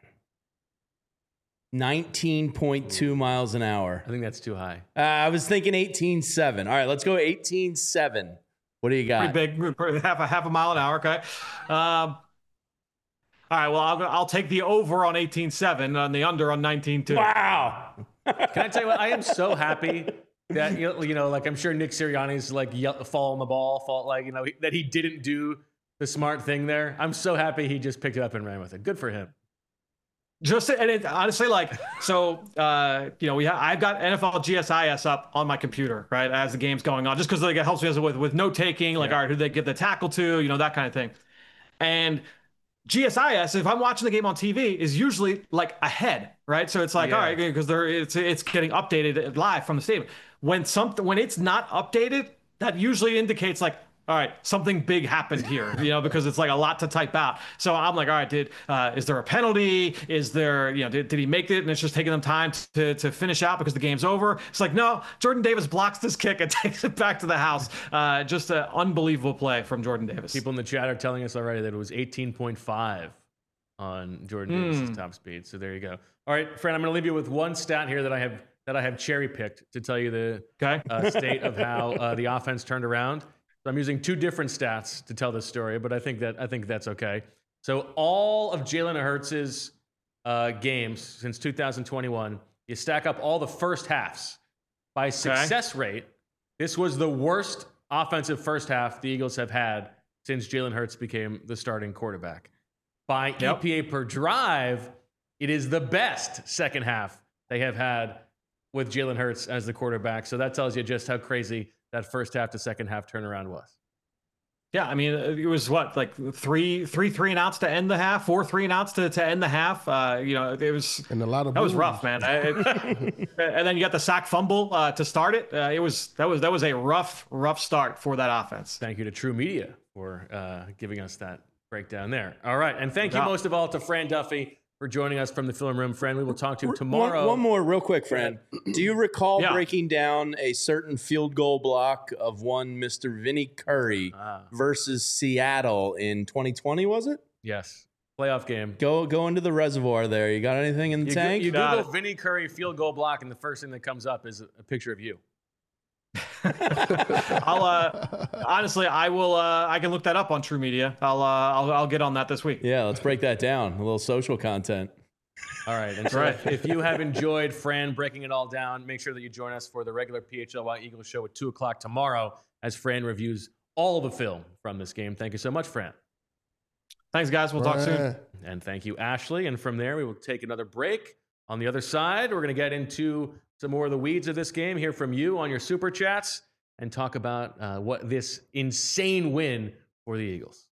19.2 miles an hour. I think that's too high. I was thinking 18.7. All right, let's go 18.7. What do you got? Pretty big, half a mile an hour. Okay. All right. Well, I'll take the over on 18.7 and the under on 19.2. Wow. Can I tell you what? I am so happy that like I'm sure Nick Sirianni's fall that he didn't do the smart thing there. I'm so happy he just picked it up and ran with it. Good for him. Honestly, I've got NFL GSIS up on my computer, right, as the game's going on, just because it helps me with note taking, all right, who they give the tackle to, that kind of thing. And GSIS, if I'm watching the game on TV, is usually ahead, right? So it's all right, because it's getting updated live from the stadium. When it's not updated, that usually indicates all right, something big happened here, because it's a lot to type out. So I'm like, all right, is there a penalty? Is there, did he make it? And it's just taking them time to finish out because the game's over. It's no, Jordan Davis blocks this kick and takes it back to the house. Just an unbelievable play from Jordan Davis. People in the chat are telling us already that it was 18.5 on Jordan Davis' top speed. So there you go. All right, Fran, I'm going to leave you with one stat here that I have cherry picked to tell you the state of how the offense turned around. So I'm using two different stats to tell this story, but I think that's okay. So all of Jalen Hurts' games since 2021, you stack up all the first halves by success rate. This was the worst offensive first half the Eagles have had since Jalen Hurts became the starting quarterback. By EPA per drive, it is the best second half they have had with Jalen Hurts as the quarterback. So that tells you just how crazy that first half to second half turnaround was. Yeah, I mean, it was three and outs to end the half, 4 3-and-outs to end the half. It was and a lot of that was rough, man. And then you got the sack fumble to start it. That was a rough start for that offense. Thank you to True Media for giving us that breakdown there. All right, and thank you most of all to Fran Duffy for joining us from the film room. Fran, we will talk to you tomorrow. One more real quick, Fran. Do you recall breaking down a certain field goal block of one Mr. Vinny Curry versus Seattle in 2020, was it? Yes. Playoff game. Go into the resorvoir there. You got anything in the tank? You Google Vinny Curry field goal block, and the first thing that comes up is a picture of you. Honestly, I can look that up on True Media. I'll get on that this week. Yeah, let's break that down. A little social content. All right. And so if you have enjoyed Fran breaking it all down, make sure that you join us for the regular PHLY Eagles show at 2:00 tomorrow as Fran reviews all the film from this game. Thank you so much, Fran. Thanks, guys. We'll talk soon. And thank you, Ashley. And from there, we will take another break. On the other side, we're going to get into some more of the weeds of this game, hear from you on your super chats, and talk about what this insane win for the Eagles.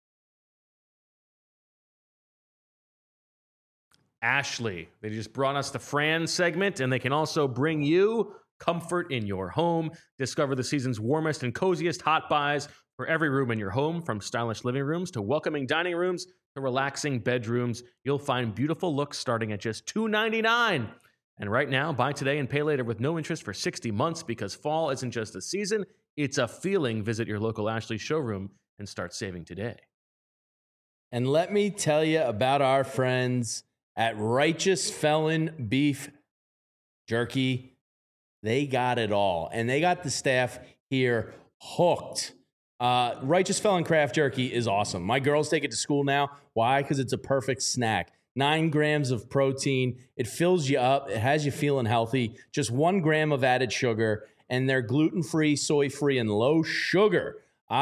Ashley, they just brought us the Fran segment, and they can also bring you comfort in your home. Discover the season's warmest and coziest hot buys for every room in your home, from stylish living rooms to welcoming dining rooms to relaxing bedrooms. You'll find beautiful looks starting at just $299 And right now, buy today and pay later with no interest for 60 months because fall isn't just a season, it's a feeling. Visit your local Ashley showroom and start saving today. And let me tell you about our friends at Righteous Felon Beef Jerky. They got it all. And they got the staff here hooked. Righteous Felon Craft Jerky is awesome. My girls take it to school now. Why? Because it's a perfect snack. 9 grams of protein. It fills you up. It has you feeling healthy. Just 1 gram of added sugar. And they're gluten-free, soy-free, and low sugar.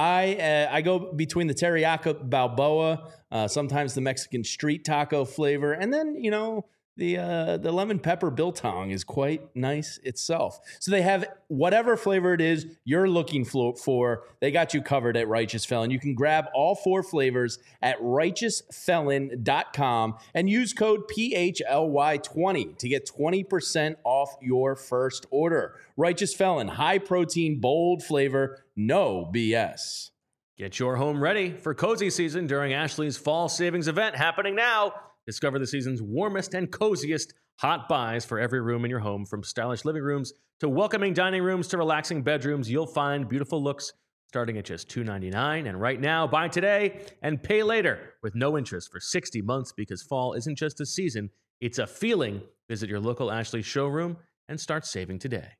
I go between the teriyaki Balboa, sometimes the Mexican street taco flavor, and then, you know, the lemon pepper biltong is quite nice itself. So they have whatever flavor it is you're looking for. They got you covered at Righteous Felon. You can grab all 4 flavors at righteousfelon.com and use code PHLY20 to get 20% off your first order. Righteous Felon, high protein, bold flavor, no BS. Get your home ready for cozy season during Ashley's fall savings event happening now. Discover the season's warmest and coziest hot buys for every room in your home, from stylish living rooms to welcoming dining rooms to relaxing bedrooms. You'll find beautiful looks starting at just $2.99. And right now, buy today and pay later with no interest for 60 months because fall isn't just a season, it's a feeling. Visit your local Ashley showroom and start saving today.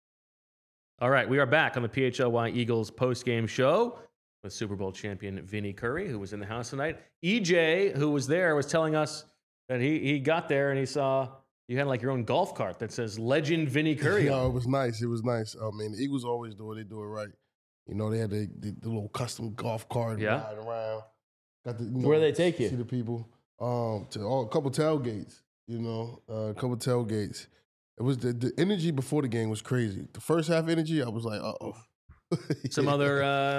All right, we are back on the PHLY Eagles postgame show with Super Bowl champion Vinny Curry, who was in the house tonight. EJ, who was there, was telling us that he got there and he saw you had like your own golf cart that says Legend Vinny Curry. No, it was nice. It was nice. I mean, the Eagles always do it. They do it right. You know, they had the little custom golf cart riding around. Got the, Where they take you? See the people. To a couple tailgates. You know, a couple tailgates. It was the energy before the game was crazy. The first half energy, I was like, uh-oh. Some other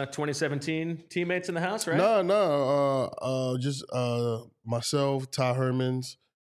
2017 teammates in the house, right? No, just myself, Ty Hermans,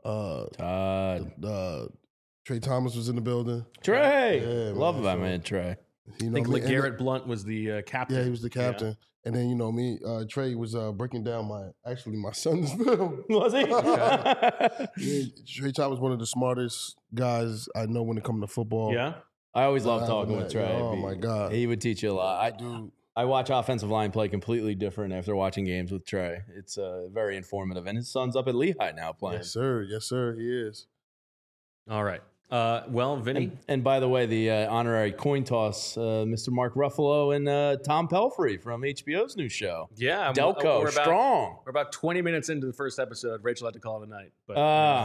Todd. Trey Thomas was in the building. Trey! Yeah, Love that man, Trey. You I know think me? LeGarrette Blunt was the captain. Yeah, he was the captain. Yeah. And then, you know, me, Trey was breaking down my son's film. Was he? Yeah, Trey Thomas was one of the smartest guys I know when it comes to football. Yeah? I always love talking with Trey. Oh, my God. He would teach you a lot. I watch offensive line play completely different after watching games with Trey. It's very informative. And his son's up at Lehigh now playing. Yes, sir. Yes, sir. He is. All right. Well, Vinny. And by the way, the honorary coin toss, Mr. Mark Ruffalo and Tom Pelfrey from HBO's new show. Yeah. Delco, strong. We're about 20 minutes into the first episode. Rachel had to call it a night. But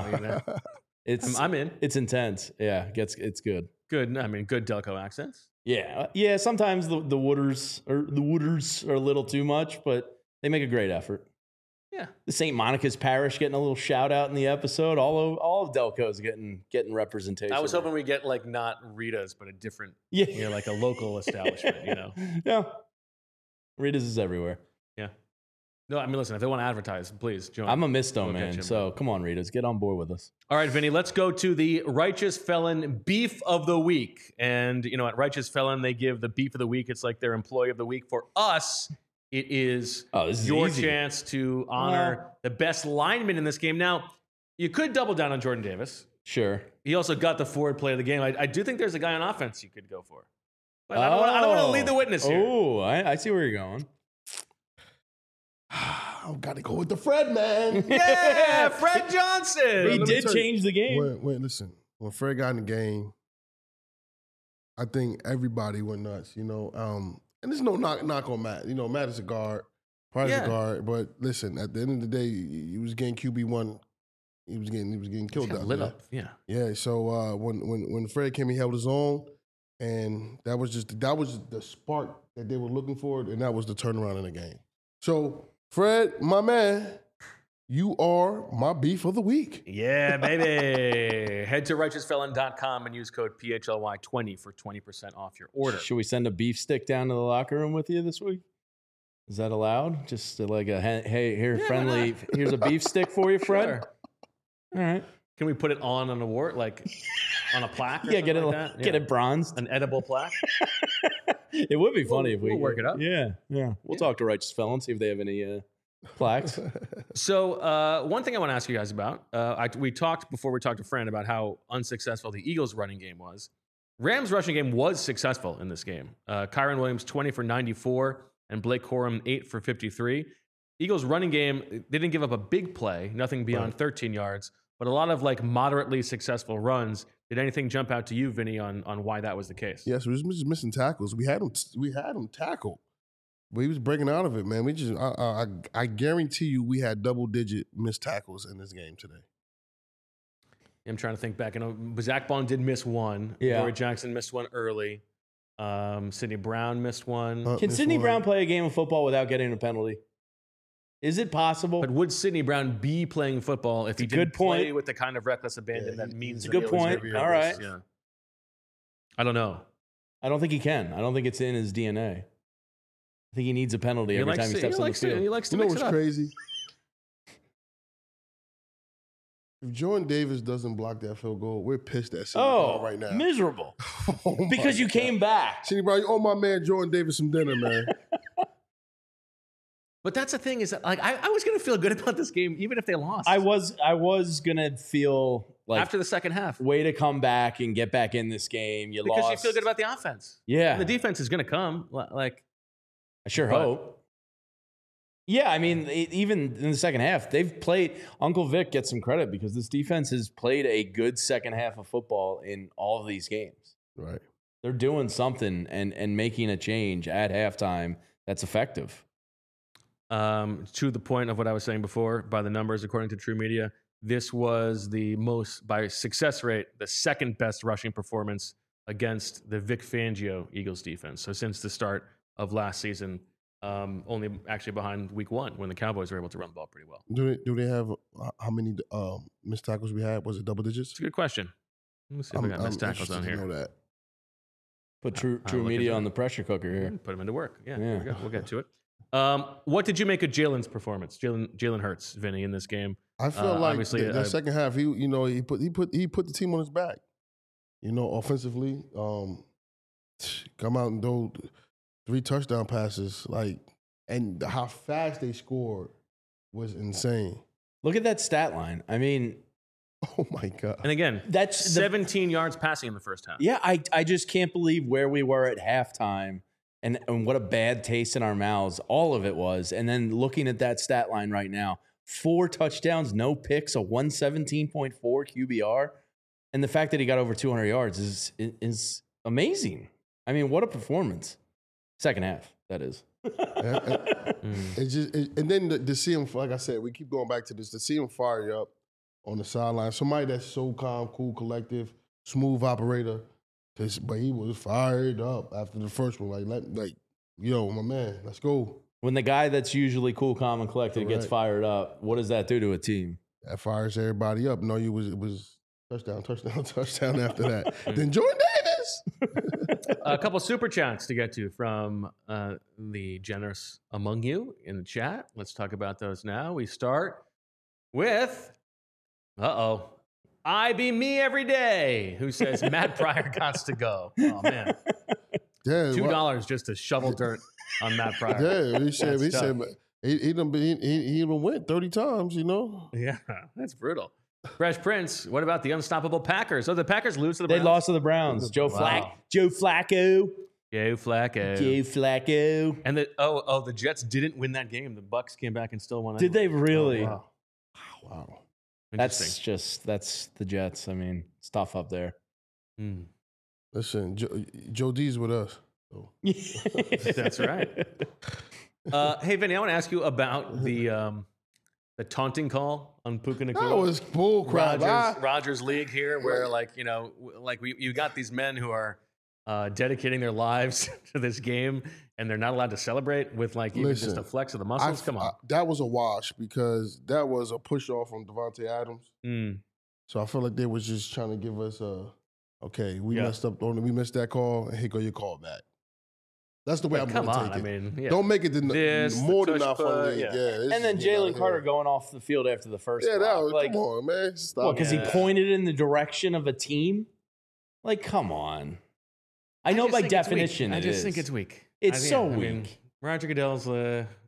I'm in. It's intense. Yeah, it's good. Good. I mean, good Delco accents. Yeah. Sometimes the Wooders are a little too much, but they make a great effort. Yeah. The St. Monica's Parish getting a little shout out in the episode. All of Delco's getting representation. I was hoping we get like not Rita's, but a different, like a local establishment. Yeah. Rita's is everywhere. Yeah. No, I mean, listen, if they want to advertise, please join. I'm a Misto man, so come on, Rita's, get on board with us. All right, Vinny, let's go to the Righteous Felon Beef of the Week. And, at Righteous Felon, they give the Beef of the Week. It's like their Employee of the Week. For us, it is your chance to honor the best lineman in this game. Now, you could double down on Jordan Davis. Sure. He also got the forward play of the game. I do think there's a guy on offense you could go for. But I don't want to lead the witness here. Oh, I see where you're going. I've got to go with the Fred, man. Yeah, Fred Johnson. He did change the game. Wait, listen. When Fred got in the game, I think everybody went nuts, And there's no knock on Matt. Matt is a guard. Probably a guard. But listen, at the end of the day, he was getting QB1. He was getting killed out lit there. up. Yeah. Yeah. So when Fred came, he held his own. And that was the spark that they were looking for, and that was the turnaround in the game. So, Fred, my man, you are my beef of the week. Yeah, baby. Head to righteousfelon.com and use code PHLY20 for 20% off your order. Should we send a beef stick down to the locker room with you this week? Is that allowed? Just like friendly, here's a beef stick for you, Fred. Sure. All right. Can we put it on an award, like on a plaque? Or get it bronzed, an edible plaque. It would be funny if we'll work it up. Yeah. We'll talk to Righteous Felon, see if they have any Flax. So one thing I want to ask you guys about, we talked before we talked to Fran about how unsuccessful the Eagles' running game was. Rams' rushing game was successful in this game. Kyron Williams 20 for 94 and Blake Corum 8 for 53. Eagles' running game, they didn't give up a big play, nothing beyond 13 yards, but a lot of like moderately successful runs. Did anything jump out to you, Vinny, on why that was the case? Yes, we was just missing tackles. We had him tackled, but he was breaking out of it, man. We just, I guarantee you, we had double-digit missed tackles in this game today. I'm trying to think back. I know Zach Bond did miss one. Yeah. Dory Jackson missed one early. Sidney Brown missed one. Can Sidney Brown play a game of football without getting a penalty? Is it possible? But would Sidney Brown be playing football if he didn't good point. play with the kind of reckless abandon that means? It's a good point. All right. Yeah. I don't know. I don't think he can. I don't think it's in his DNA. I think he needs a penalty every time he steps on the field. He likes to You know mix what's it up. crazy? If Jordan Davis doesn't block that field goal, we're pissed at Sidney Brown right now. Miserable. Oh my Because you God. came back. Sidney Brown, you owe my man Jordan Davis some dinner, man. But that's the thing is that, like, I was going to feel good about this game even if they lost. I was gonna feel like after the second half. way to come back and get back in this game. You Because lost. you feel good about the offense. Yeah. And the defense is going to come. Like, I sure But- hope. Yeah, I mean, even in the second half, they've played. Uncle Vic gets some credit because this defense has played a good second half of football in all of these games. Right. They're doing something and making a change at halftime that's effective. to the point of what I was saying before, by the numbers, according to True Media, this was the most, by success rate, the second best rushing performance against the Vic Fangio Eagles defense. So since the start of last season, only actually behind week 1 when the Cowboys were able to run the ball pretty well. Do they have how many missed tackles we had? Was it double digits? It's a good question. Let me see if I got missed tackles on interested to here. know that. Put True I'll look Media into on it. the pressure cooker here. Put him into work. Yeah, Yeah. There we go. We'll get to it. What did you make of Jalen's performance? Jalen Hurts, Vinny, in this game. I feel like obviously, the second half, he put the team on his back. Offensively, come out and do 3 touchdown passes, and how fast they scored was insane. Look at that stat line. I mean, Oh my God! And again, that's 17 yards passing in the first half. Yeah, I just can't believe where we were at halftime and what a bad taste in our mouths all of it was. And then looking at that stat line right now, 4 touchdowns, no picks, a 117.4 QBR. And the fact that he got over 200 yards is amazing. I mean, what a performance. Second half, that is. It's just, and then to see him, like I said, we keep going back to this, to see him fire up on the sideline. Somebody that's so calm, cool, collective, smooth operator. But he was fired up after the first one. Yo, my man, let's go. When the guy that's usually cool, calm, and collected gets Correct. fired up, what does that do to a team? That fires everybody up. No, it was touchdown after that. Then Jordan Davis. A couple super chats to get to from the generous among you in the chat. Let's talk about those now. We start with, I be me every day, who says Matt Pryor got to go. Oh, man. Yeah, $2 just to shovel dirt on Matt Pryor. Yeah, he said That's tough. he even went 30 times, Yeah, that's brutal. Fresh Prince, what about the unstoppable Packers? Oh, the Packers lose to the They Browns? lost to the Browns. Joe Wow. Flacco. Joe Flacco. Joe Flacco. And the Jets didn't win that game. The Bucks came back and still won. Did they anyway. really? Oh, Wow. Interesting. That's the Jets. I mean, it's tough up there. Hmm. Listen, Joe D's with us. So. That's right. Hey, Vinny, I want to ask you about the taunting call on Puka Nacua. That was bull crap. Rogers League here, where you got these men who are dedicating their lives to this game, and they're not allowed to celebrate with even just a flex of the muscles. Come on, that was a wash because that was a push off from Devontae Adams. So I feel like they was just trying to give us we messed up. We missed that call, and here go your call back. That's the way I'm going to take it. I mean, yeah. Don't make it more than enough. And then Jalen Carter going off the field after the first. Yeah, block. come on, man. Stop. Because he pointed in the direction of a team. Come on. I know by definition I just think it's weak. It's so weak. Roger Goodell's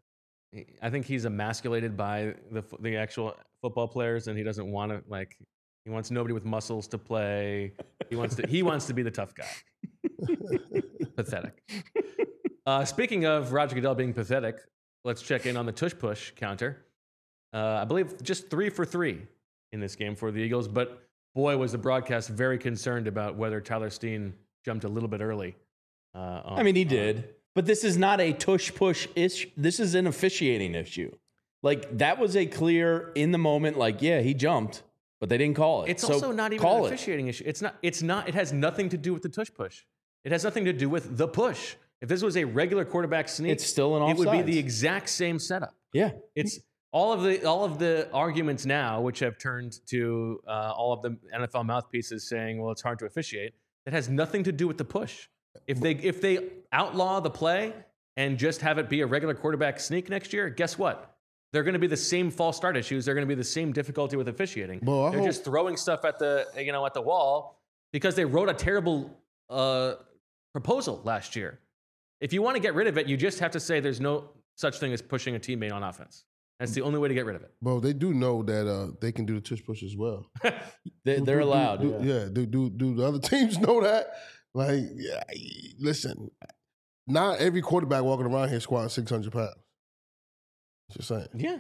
I think he's emasculated by the actual football players, and he doesn't want to like. He wants nobody with muscles to play. He wants to be the tough guy. Pathetic. Speaking of Roger Goodell being pathetic, let's check in on the tush push counter. I believe just 3 for 3 in this game for the Eagles, but boy, was the broadcast very concerned about whether Tyler Steen jumped a little bit early. He did. But this is not a tush push issue. This is an officiating issue. Like, that was a clear, in the moment, like, yeah, he jumped, but they didn't call it. It's also not even an officiating issue. It's not. It has nothing to do with the tush push. It has nothing to do with the push. If this was a regular quarterback sneak, it's still an offside. It would be the exact same setup. Yeah. It's all of the arguments now, which have turned to all of the NFL mouthpieces saying, well, it's hard to officiate. It has nothing to do with the push. If they outlaw the play and just have it be a regular quarterback sneak next year, guess what? They're going to be the same false start issues. They're going to be the same difficulty with officiating. They're just throwing stuff at the wall because they wrote a terrible proposal last year. If you want to get rid of it, you just have to say there's no such thing as pushing a teammate on offense. That's the only way to get rid of it. Bro, they do know that they can do the tush push as well. They're allowed. Do the other teams know that? Like, listen, not every quarterback walking around here squatting 600 pounds. Just saying. Yeah.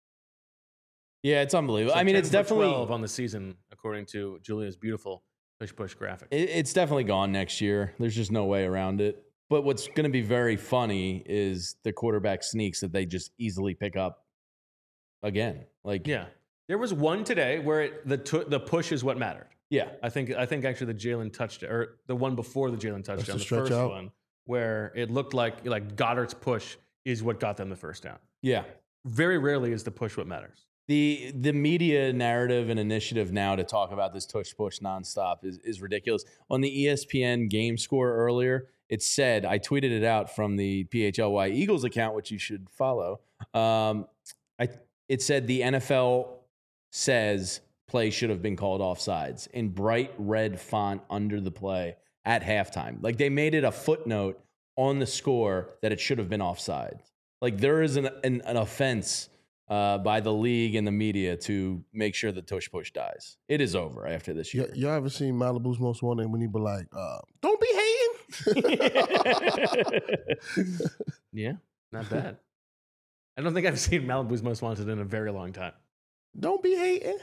Yeah, it's unbelievable. So it's definitely 12 on the season, according to Julia's beautiful push graphic. It's definitely gone next year. There's just no way around it. But what's going to be very funny is the quarterback sneaks that they just easily pick up again. Like, yeah, there was one today where the push is what mattered. Yeah, I think actually the Jalen touchdown, or the one before the Jalen touchdown, the first one, where it looked like Goddard's push is what got them the first down. Yeah, very rarely is the push what matters. The media narrative and initiative now to talk about this tush push nonstop is ridiculous. On the ESPN game score earlier, it said, I tweeted it out from the PHLY Eagles account, which you should follow. It said the NFL says play should have been called offsides in bright red font under the play at halftime. Like, they made it a footnote on the score that it should have been offside. Like, there is an offense by the league and the media to make sure the tush push dies. It is over after this year. Y'all ever seen Malibu's Most Wanted when he be like, don't be hating? Yeah, not bad. I don't think I've seen Malibu's Most Wanted in a very long time. Don't be hating.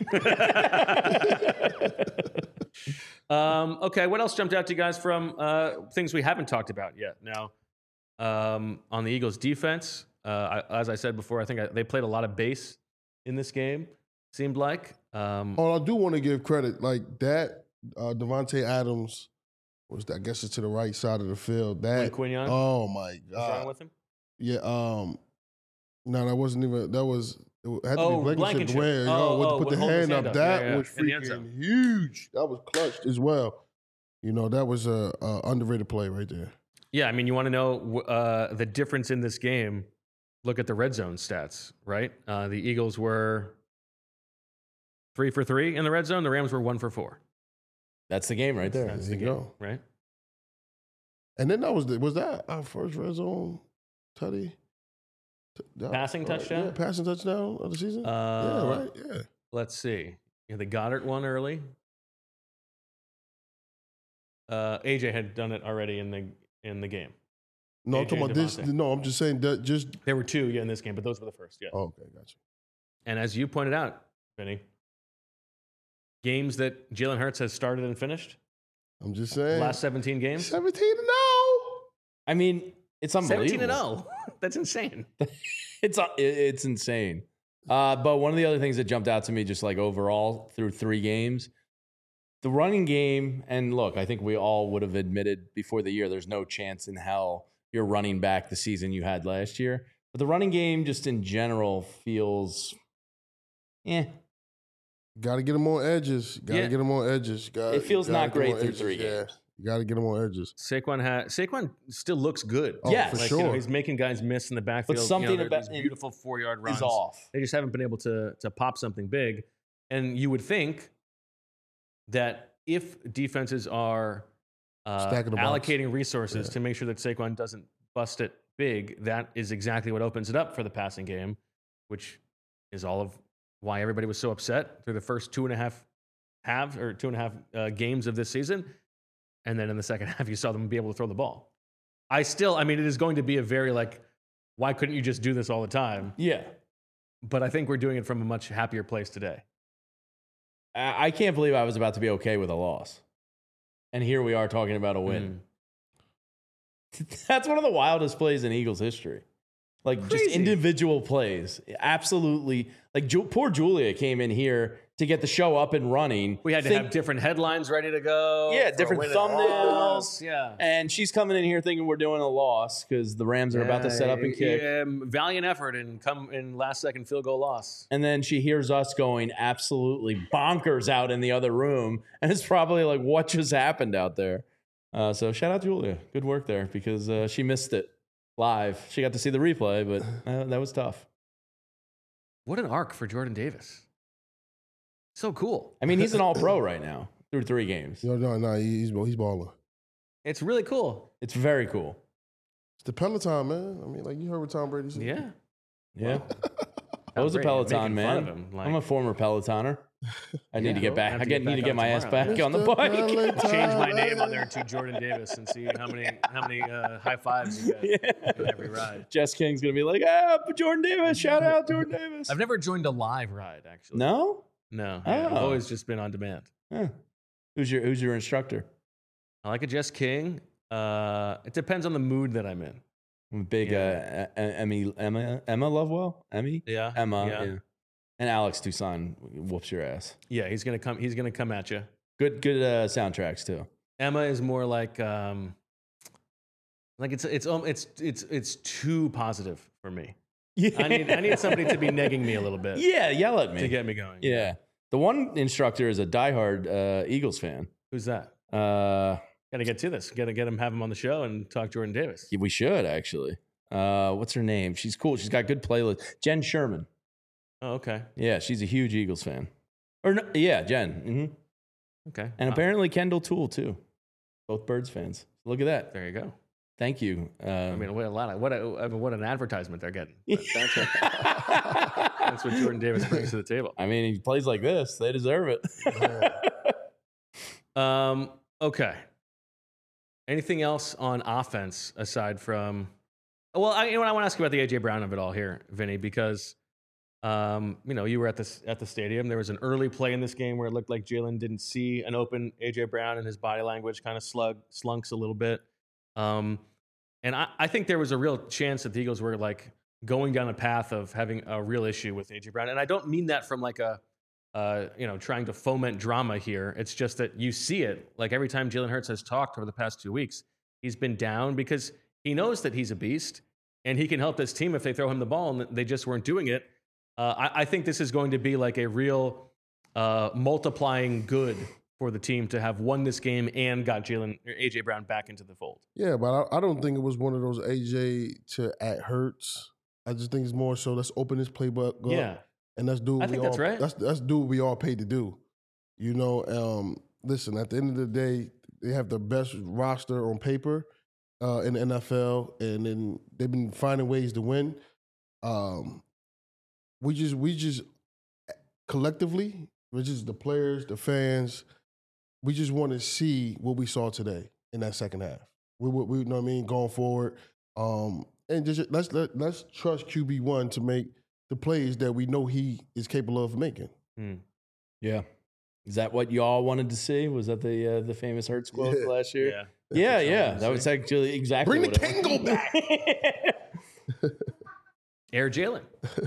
Okay, what else jumped out to you guys from things we haven't talked about yet? Now, on the Eagles' defense, as I said before, I think they played a lot of base in this game, seemed like. I do want to give credit. Like that, Devontae Adams was, I guess it's to the right side of the field. That Quinion? Oh, my God. What's wrong with him? Yeah, no, that wasn't even, that was, it had to be Blankenship. Where, put the hand up. That was freaking huge. That was clutched as well. That was a underrated play right there. Yeah, I mean, you want to know the difference in this game. Look at the red zone stats, right? The Eagles were 3 for 3 in the red zone. The Rams were 1 for 4. That's the game right there. That's the game, right? And then was that our first red zone tutty? Passing touchdown? Yeah, passing touchdown of the season? Yeah, right? Yeah. Let's see. The Goddard one early. AJ had done it already in the game. No, I'm talking about this. No, I'm just saying that there were 2 in this game, but those were the first. Yeah. Oh, okay, gotcha. And as you pointed out, Vinny, games that Jalen Hurts has started and finished. I'm just saying. Last 17 games. 17-0. I mean, it's unbelievable. 17-0. That's insane. It's insane. But one of the other things that jumped out to me, just like overall through 3 games, the running game, and look, I think we all would have admitted before the year, there's no chance in hell you're running back the season you had last year. But the running game just in general feels, Got to get them on edges. Got to get them on edges. It feels not great through 3 games. Yeah. You got to get them on edges. Saquon still looks good. Yes, for sure. He's making guys miss in the backfield. But something about these beautiful 4-yard runs is off. They just haven't been able to pop something big. And you would think that if defenses are allocating resources to make sure that Saquon doesn't bust it big, that is exactly what opens it up for the passing game, which is all of why everybody was so upset through the first 2.5 games of this season. And then in the second half, you saw them be able to throw the ball. I mean, it is going to be a very why couldn't you just do this all the time? Yeah. But I think we're doing it from a much happier place today. I can't believe I was about to be okay with a loss. And here we are talking about a win. That's one of the wildest plays in Eagles history. Just individual plays. Absolutely. Poor Julia came in here to get the show up and running. We had to have different headlines ready to go. Yeah, different thumbnails. Yeah. And she's coming in here thinking we're doing a loss because the Rams are about to set up and kick. Yeah, valiant effort and come in last-second field goal loss. And then she hears us going absolutely bonkers out in the other room. And it's probably like, what just happened out there? So shout out Julia. Good work there because she missed it live. She got to see the replay, but that was tough. What an arc for Jordan Davis. So cool. I mean, he's an all-pro right now through 3 games. No, he's balling. It's really cool. It's very cool. It's the Peloton, man. I mean, you heard what Tom Brady said. Yeah. Yeah. I was a Peloton man. I'm a former Pelotoner. I need to get back. I need to get my ass back on the bike. Change my name on there to Jordan Davis and see how many high fives you get in every ride. Jess King's gonna be like, Jordan Davis, shout out Jordan Davis. I've never joined a live ride actually. No, yeah, I've always just been on demand. Huh. Who's your instructor? I like a Jess King. It depends on the mood that I'm in. I'm a big Emma Lovewell. Yeah. Emma. Yeah. And Alex Toussaint whoops your ass. Yeah, he's gonna come at you. Good soundtracks too. Emma is more like it's too positive for me. Yeah. I need somebody to be negging me a little bit. Yeah, yell at me to get me going. Yeah. The one instructor is a diehard Eagles fan. Who's that? Gotta get to this. Have him on the show and talk Jordan Davis. We should actually. What's her name? She's cool. She's got good playlist. Jen Sherman. Oh, okay. Yeah, she's a huge Eagles fan. Or no, yeah, Jen. Mm-hmm. Okay. And apparently Kendall Toole too. Both Birds fans. Look at that. There you go. Thank you. I mean, what an advertisement they're getting. That's what Jordan Davis brings to the table. I mean, he plays like this. They deserve it. Okay. Anything else on offense aside from? Well, I want to ask you about the AJ Brown of it all here, Vinny, because you were at the stadium. There was an early play in this game where it looked like Jalen didn't see an open AJ Brown, and his body language kind of slunks a little bit. And I think there was a real chance that the Eagles were going down a path of having a real issue with AJ Brown, and I don't mean that from trying to foment drama here. It's just that you see it. Every time Jalen Hurts has talked over the past 2 weeks, he's been down because he knows that he's a beast and he can help this team if they throw him the ball, and they just weren't doing it. I think this is going to be a real multiplying good for the team to have won this game and got AJ Brown back into the fold. Yeah, but I don't think it was one of those AJ to at Hurts. I just think it's more so let's open this playbook up. Yeah. And that's do. I think that's right. That's do what we all paid to do. Listen. At the end of the day, they have the best roster on paper in the NFL, and then they've been finding ways to win. We just collectively, which is the players, the fans, we just want to see what we saw today in that second half. We know what I mean, going forward, and just let's trust QB1 to make the plays that we know he is capable of making. Yeah. Is that what you all wanted to see? Was that the famous Hurts quote last year? Yeah. Yeah. That was actually exactly Bring the Kango back. Air Jalen.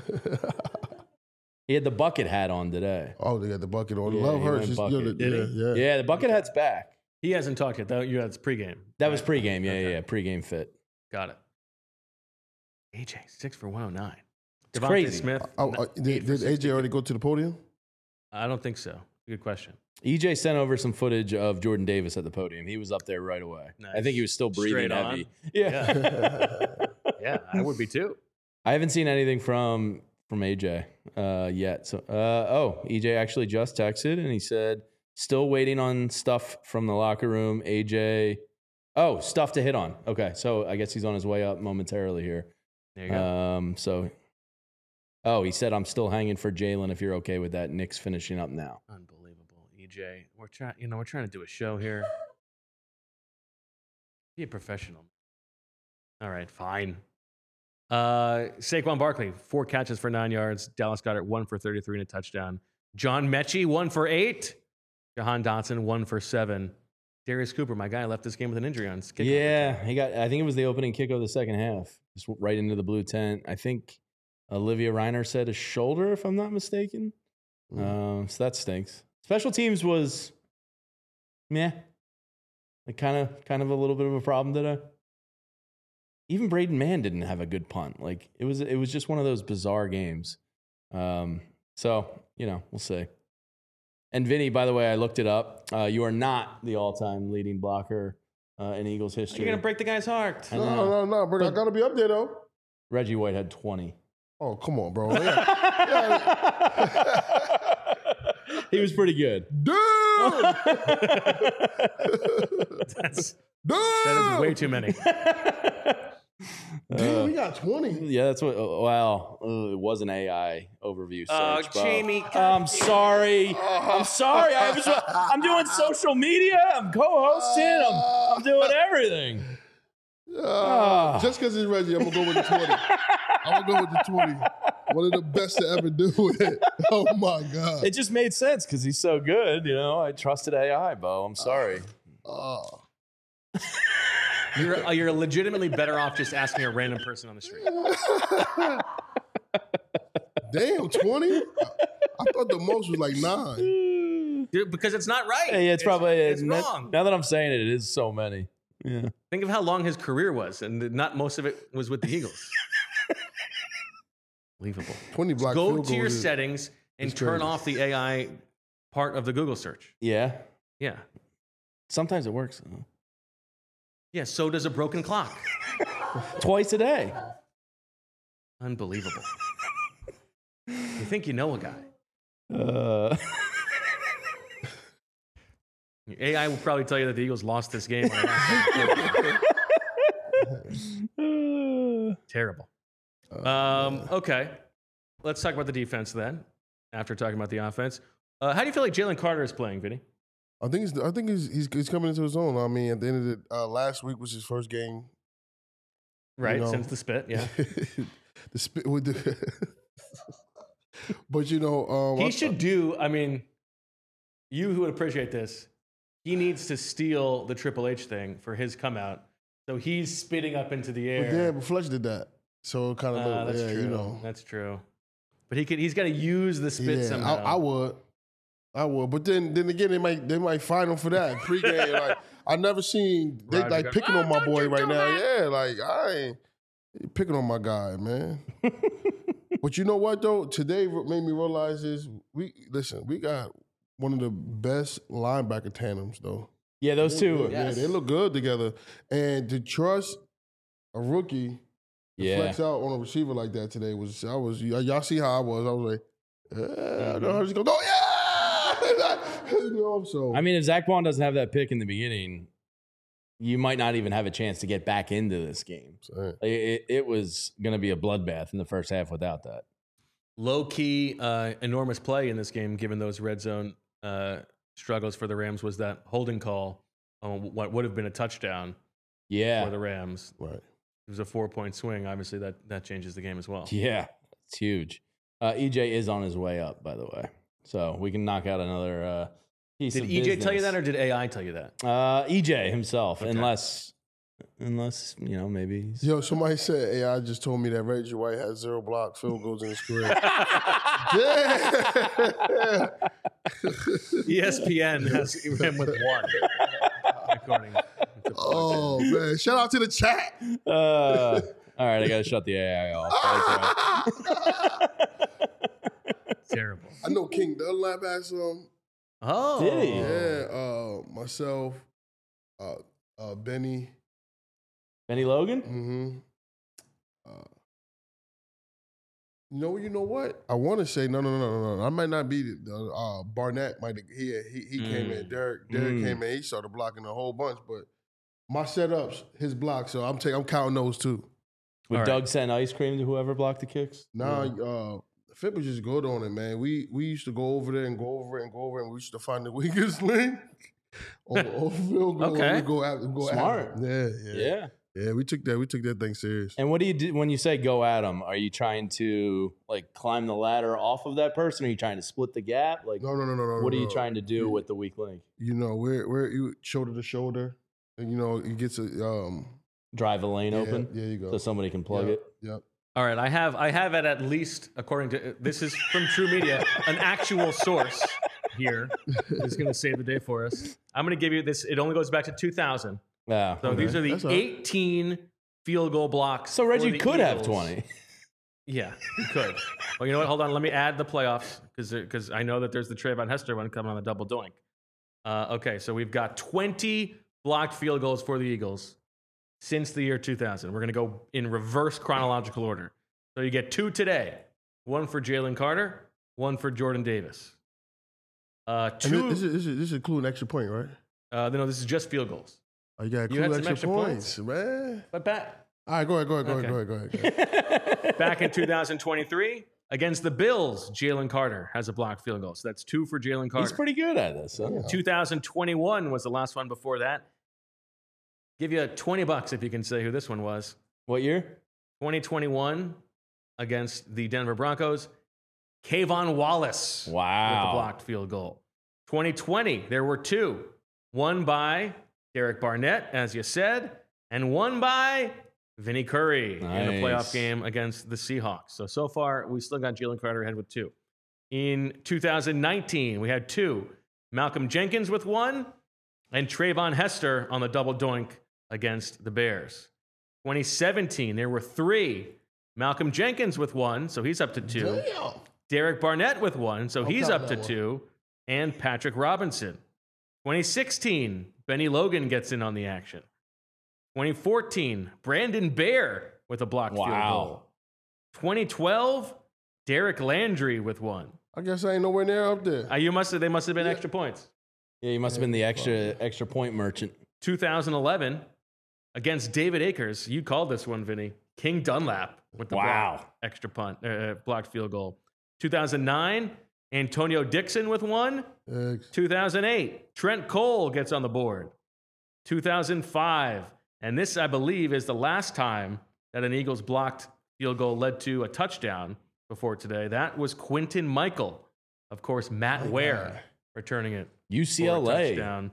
He had the bucket hat on today. Oh, they got the bucket on. Yeah, Love Hurts. Yeah, the bucket hat's back. He hasn't talked yet, though. That's pregame. That was pregame. Okay. Yeah. Pregame fit. Got it. AJ, 6 for 109. It's Devontae crazy. Smith. Did AJ already go to the podium? I don't think so. Good question. EJ sent over some footage of Jordan Davis at the podium. He was up there right away. Nice. I think he was still breathing Straight heavy. on. Yeah. Yeah, I would be too. I haven't seen anything from AJ yet. So, EJ actually just texted and he said, still waiting on stuff from the locker room. AJ Oh, stuff to hit on. Okay, so I guess he's on his way up momentarily here. There you go. He said, I'm still hanging for Jalen if you're okay with that. Nick's finishing up now. Unbelievable. EJ, we're trying to do a show here. Be a professional. All right, fine. Saquon Barkley, 4 catches for 9 yards. Dallas Goedert, 1 for 33 and a touchdown. John Mechie, 1 for 8. Jahan Dotson, 1 for 7. Darius Cooper, my guy, left this game with an injury on his kickoff. Yeah, I think it was the opening kick of the second half. Just right into the blue tent. I think Olivia Reiner said a shoulder, if I'm not mistaken. So that stinks. Special teams was meh. Like kind of a little bit of a problem today. Even Braden Mann didn't have a good punt. Like it was just one of those bizarre games. So, we'll see. And Vinny, by the way, I looked it up. You are not the all-time leading blocker in Eagles history. You're going to break the guy's heart. No, bro. I got to be up there, though. Reggie White had 20. Oh, come on, bro. He was pretty good. Dude! That is way too many. Damn, we got 20. Yeah, that's what. It was an AI overview search. Jamie. I'm sorry. I'm doing social media. I'm co-hosting. I'm doing everything. Just because it's Reggie, I'm going to go with the 20. I'm going to go with the 20. One of the best to ever do it. Oh, my God. It just made sense because he's so good. I trusted AI, Bo. I'm sorry. You're legitimately better off just asking a random person on the street. Damn, 20? I thought the most was like 9. Dude, because it's not right. Yeah, it's probably it's wrong. Now that I'm saying it, it is so many. Yeah. Think of how long his career was, and not most of it was with the Eagles. Unbelievable. 20 block Go field to your goals settings and turn crazy. off the AI part of the Google search. Yeah. Yeah. Sometimes it works. Yeah, so does a broken clock. Twice a day. Unbelievable. You think you know a guy. Your AI will probably tell you that the Eagles lost this game. Terrible. Okay. Let's talk about the defense then, after talking about the offense. How do you feel like Jalen Carter is playing, Vinny? I think he's coming into his own. I mean, at the end of the last week was his first game. Right, since the spit, yeah. The spit with the But he should do, you who would appreciate this, he needs to steal the Triple H thing for his come out. So he's spitting up into the air. Yeah, but Fletch did that. So it kind of that's true. That's true. But he's got to use the spit somehow. I would. But then again, they might fine him for that. Pre-game, like I never seen they like picking on my boy right now. Yeah, like I ain't picking on my guy, man. But you know what though? Today made me realize is we got one of the best linebacker tandems though. Yeah, those two. Yeah, they look good together. And to trust a rookie to flex out on a receiver like that today y'all see how I was. I was like, I just go, oh yeah. So if Zach Bond doesn't have that pick in the beginning, you might not even have a chance to get back into this game. It was going to be a bloodbath in the first half without that. Low-key, enormous play in this game, given those red zone struggles for the Rams, was that holding call on what would have been a touchdown for the Rams. Right. It was a 4-point swing. Obviously, that changes the game as well. Yeah, it's huge. EJ is on his way up, by the way. So we can knock out another piece of business. Did EJ tell you that, or did AI tell you that? EJ himself, Okay. unless maybe. Yo, somebody said AI just told me that Reggie White has 0 block field goals in his career. ESPN has him with 1, according to Oh man! Shout out to the chat. All right, I gotta shut the AI off. Terrible. I know King Dunlap has some. Oh, did he? Yeah, myself, Benny Logan? Mm-hmm. You know what? I want to say no. I might not be. Barnett might. He came in. Derek came in. He started blocking a whole bunch, but My setups, his blocks. So I'm counting those too. Would All Doug send ice cream to whoever blocked the kicks? Nah, Fit was just good on it, man. We used to go over there and go over it and go over it, and we used to find the weakest link. Okay. Go Smart. Yeah. Yeah, we took that thing serious. And what do you do when you say go at them? Are you trying to like climb the ladder off of that person? Are you trying to split the gap? Like, No. what are you trying to do with the weak link? You know, we're you shoulder to shoulder, and you know, it gets a Drive a lane open Yeah, you go. so somebody can plug it. Yep. All right, I have it at least, according to this is from True Media, an actual source here is going to save the day for us. I'm going to give you this. It only goes back to 2000. Yeah. So these are the That's all right. 18 field goal blocks. So for Reggie the could have Eagles. 20. Yeah, he could. Well, you know what? Hold on. Let me add the playoffs because I know that there's the Trayvon Hester one coming on the double doink. Okay, so we've got 20 blocked field goals for the Eagles since the year 2000. We're going to go in reverse chronological order. So you get 2 today, 1 for Jalen Carter, 1 for Jordan Davis. And 2. this is including extra point, right? No, this is just field goals. Oh, you got You had include some extra extra points, man. But back All right, go ahead. back in 2023 against the Bills, Jalen Carter has a blocked field goal. So that's 2 for Jalen Carter. He's pretty good at this. Huh? 2021 was the last one before that. Give you $20 if you can say who this one was. What year? 2021 against the Denver Broncos, Kayvon Wallace with Wow. the blocked field goal. 2020, there were 2. One by Derek Barnett, as you said, and one by Vinny Curry in the playoff Nice. game against the Seahawks. So far, we still got Jalen Carter ahead with 2. In 2019, we had 2. Malcolm Jenkins with 1, and Trayvon Hester on the double doink against the Bears. 2017, there were 3. Malcolm Jenkins with 1, so he's up to 2. Damn. Derek Barnett with 1, so he's count up to that one. 2. And Patrick Robinson. 2016, Benny Logan gets in on the action. 2014, Brandon Bear with a blocked field Wow. goal. 2012, Derek Landry with 1. I guess I ain't nowhere near up there. They must have been extra points. Yeah, he must have been the extra point merchant. 2011, against David Akers, you called this one, Vinny. King Dunlap with the Wow. blocked field goal. 2009, Antonio Dixon with 1. Eggs. 2008, Trent Cole gets on the board. 2005, and this, I believe, is the last time that an Eagles blocked field goal led to a touchdown before today. That was Quinton Michael. Of course, Matt Ware returning it for a UCLA. touchdown.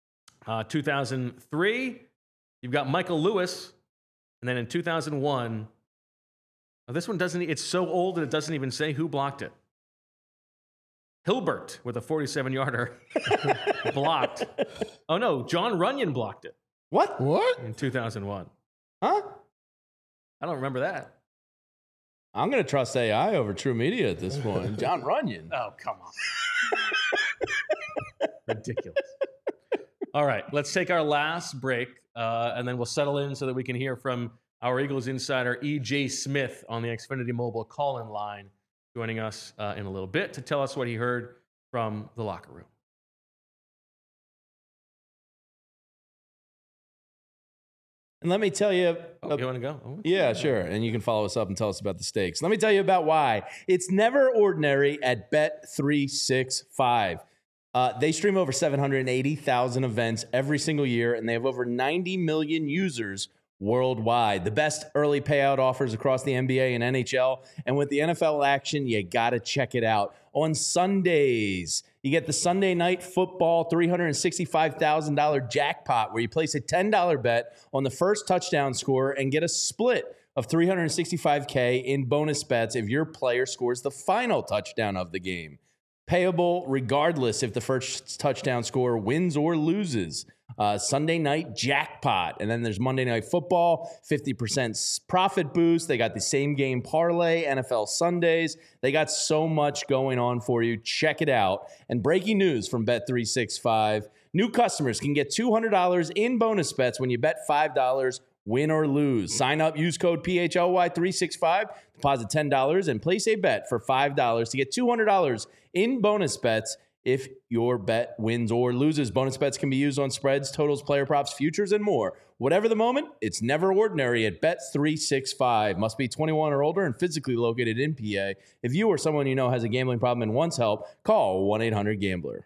2003, you've got Michael Lewis. And then in 2001, this one doesn't, it's so old that it doesn't even say who blocked it. Hilbert with a 47-yarder blocked. Oh no, John Runyon blocked it What? What? in 2001. Huh? I don't remember that. I'm going to trust AI over True Media at this point. John Runyon. Oh, come on. Ridiculous. All right, let's take our last break, and then we'll settle in so that we can hear from our Eagles insider, E.J. Smith, on the Xfinity Mobile call-in line, joining us in a little bit to tell us what he heard from the locker room. And let me tell you. Oh, you want to go? Oh. Yeah, sure. And you can follow us up and tell us about the stakes. Let me tell you about why. It's never ordinary at Bet365. They stream over 780,000 events every single year, and they have over 90 million users worldwide. The best early payout offers across the NBA and NHL. And with the NFL action, you got to check it out. On Sundays, you get the Sunday Night Football $365,000 jackpot, where you place a $10 bet on the first touchdown scorer and get a split of $365K in bonus bets if your player scores the final touchdown of the game. Payable regardless if the first touchdown scorer wins or loses. Sunday night jackpot. And then there's Monday Night Football, 50% profit boost. They got the same game parlay, NFL Sundays. They got so much going on for you. Check it out. And breaking news from Bet365. New customers can get $200 in bonus bets when you bet $5, win or lose. Sign up, use code PHLY365, deposit $10, and place a bet for $5 to get $200 in bonus bets if your bet wins or loses. Bonus bets can be used on spreads, totals, player props, futures, and more. Whatever the moment, it's never ordinary at Bet365. Must be 21 or older and physically located in PA. If you or someone you know has a gambling problem and wants help, call 1-800-GAMBLER.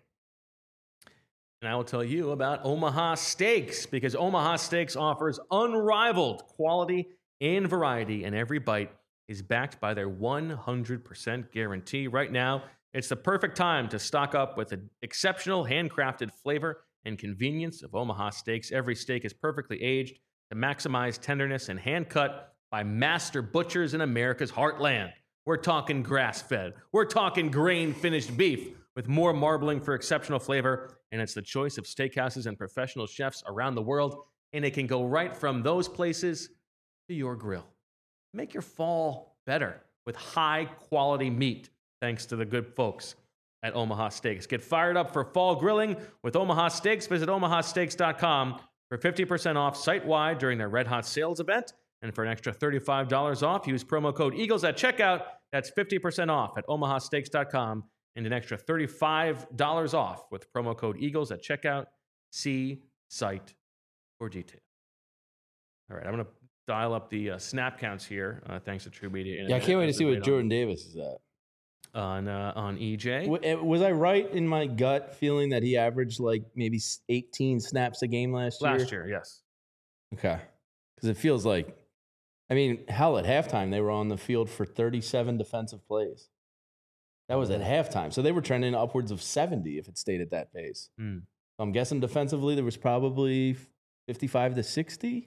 And I will tell you about Omaha Steaks, because Omaha Steaks offers unrivaled quality and variety, and every bite is backed by their 100% guarantee. Right now, it's the perfect time to stock up with the exceptional handcrafted flavor and convenience of Omaha Steaks. Every steak is perfectly aged to maximize tenderness and hand-cut by master butchers in America's heartland. We're talking grass-fed. We're talking grain-finished beef with more marbling for exceptional flavor, and it's the choice of steakhouses and professional chefs around the world, and it can go right from those places to your grill. Make your fall better with high-quality meat, thanks to the good folks at Omaha Steaks. Get fired up for fall grilling with Omaha Steaks. Visit omahasteaks.com for 50% off site-wide during their Red Hot Sales event. And for an extra $35 off, use promo code EAGLES at checkout. That's 50% off at omahasteaks.com and an extra $35 off with promo code EAGLES at checkout. See site for details. All right, I'm going to dial up the snap counts here, thanks to True Media. Yeah, I can't wait to see what Jordan Davis is at. On EJ. Was I right in my gut feeling that he averaged like maybe 18 snaps a game last year? Last year, yes. Okay. Because it feels like, I mean, hell, at halftime, they were on the field for 37 defensive plays. That was at halftime. So they were trending upwards of 70 if it stayed at that pace. So I'm guessing defensively there was probably 55 to 60,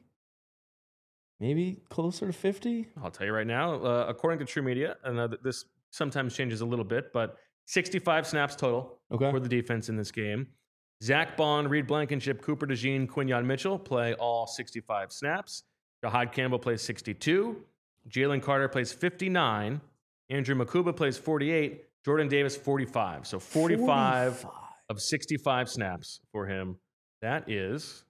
maybe closer to 50. I'll tell you right now, according to True Media, and this sometimes changes a little bit, but 65 snaps total for the defense in this game. Zach Bond, Reed Blankenship, Cooper DeJean, Quinyon Mitchell play all 65 snaps. Jahad Campbell plays 62. Jalen Carter plays 59. Andrew Makuba plays 48. Jordan Davis, 45. So 45 of 65 snaps for him. That is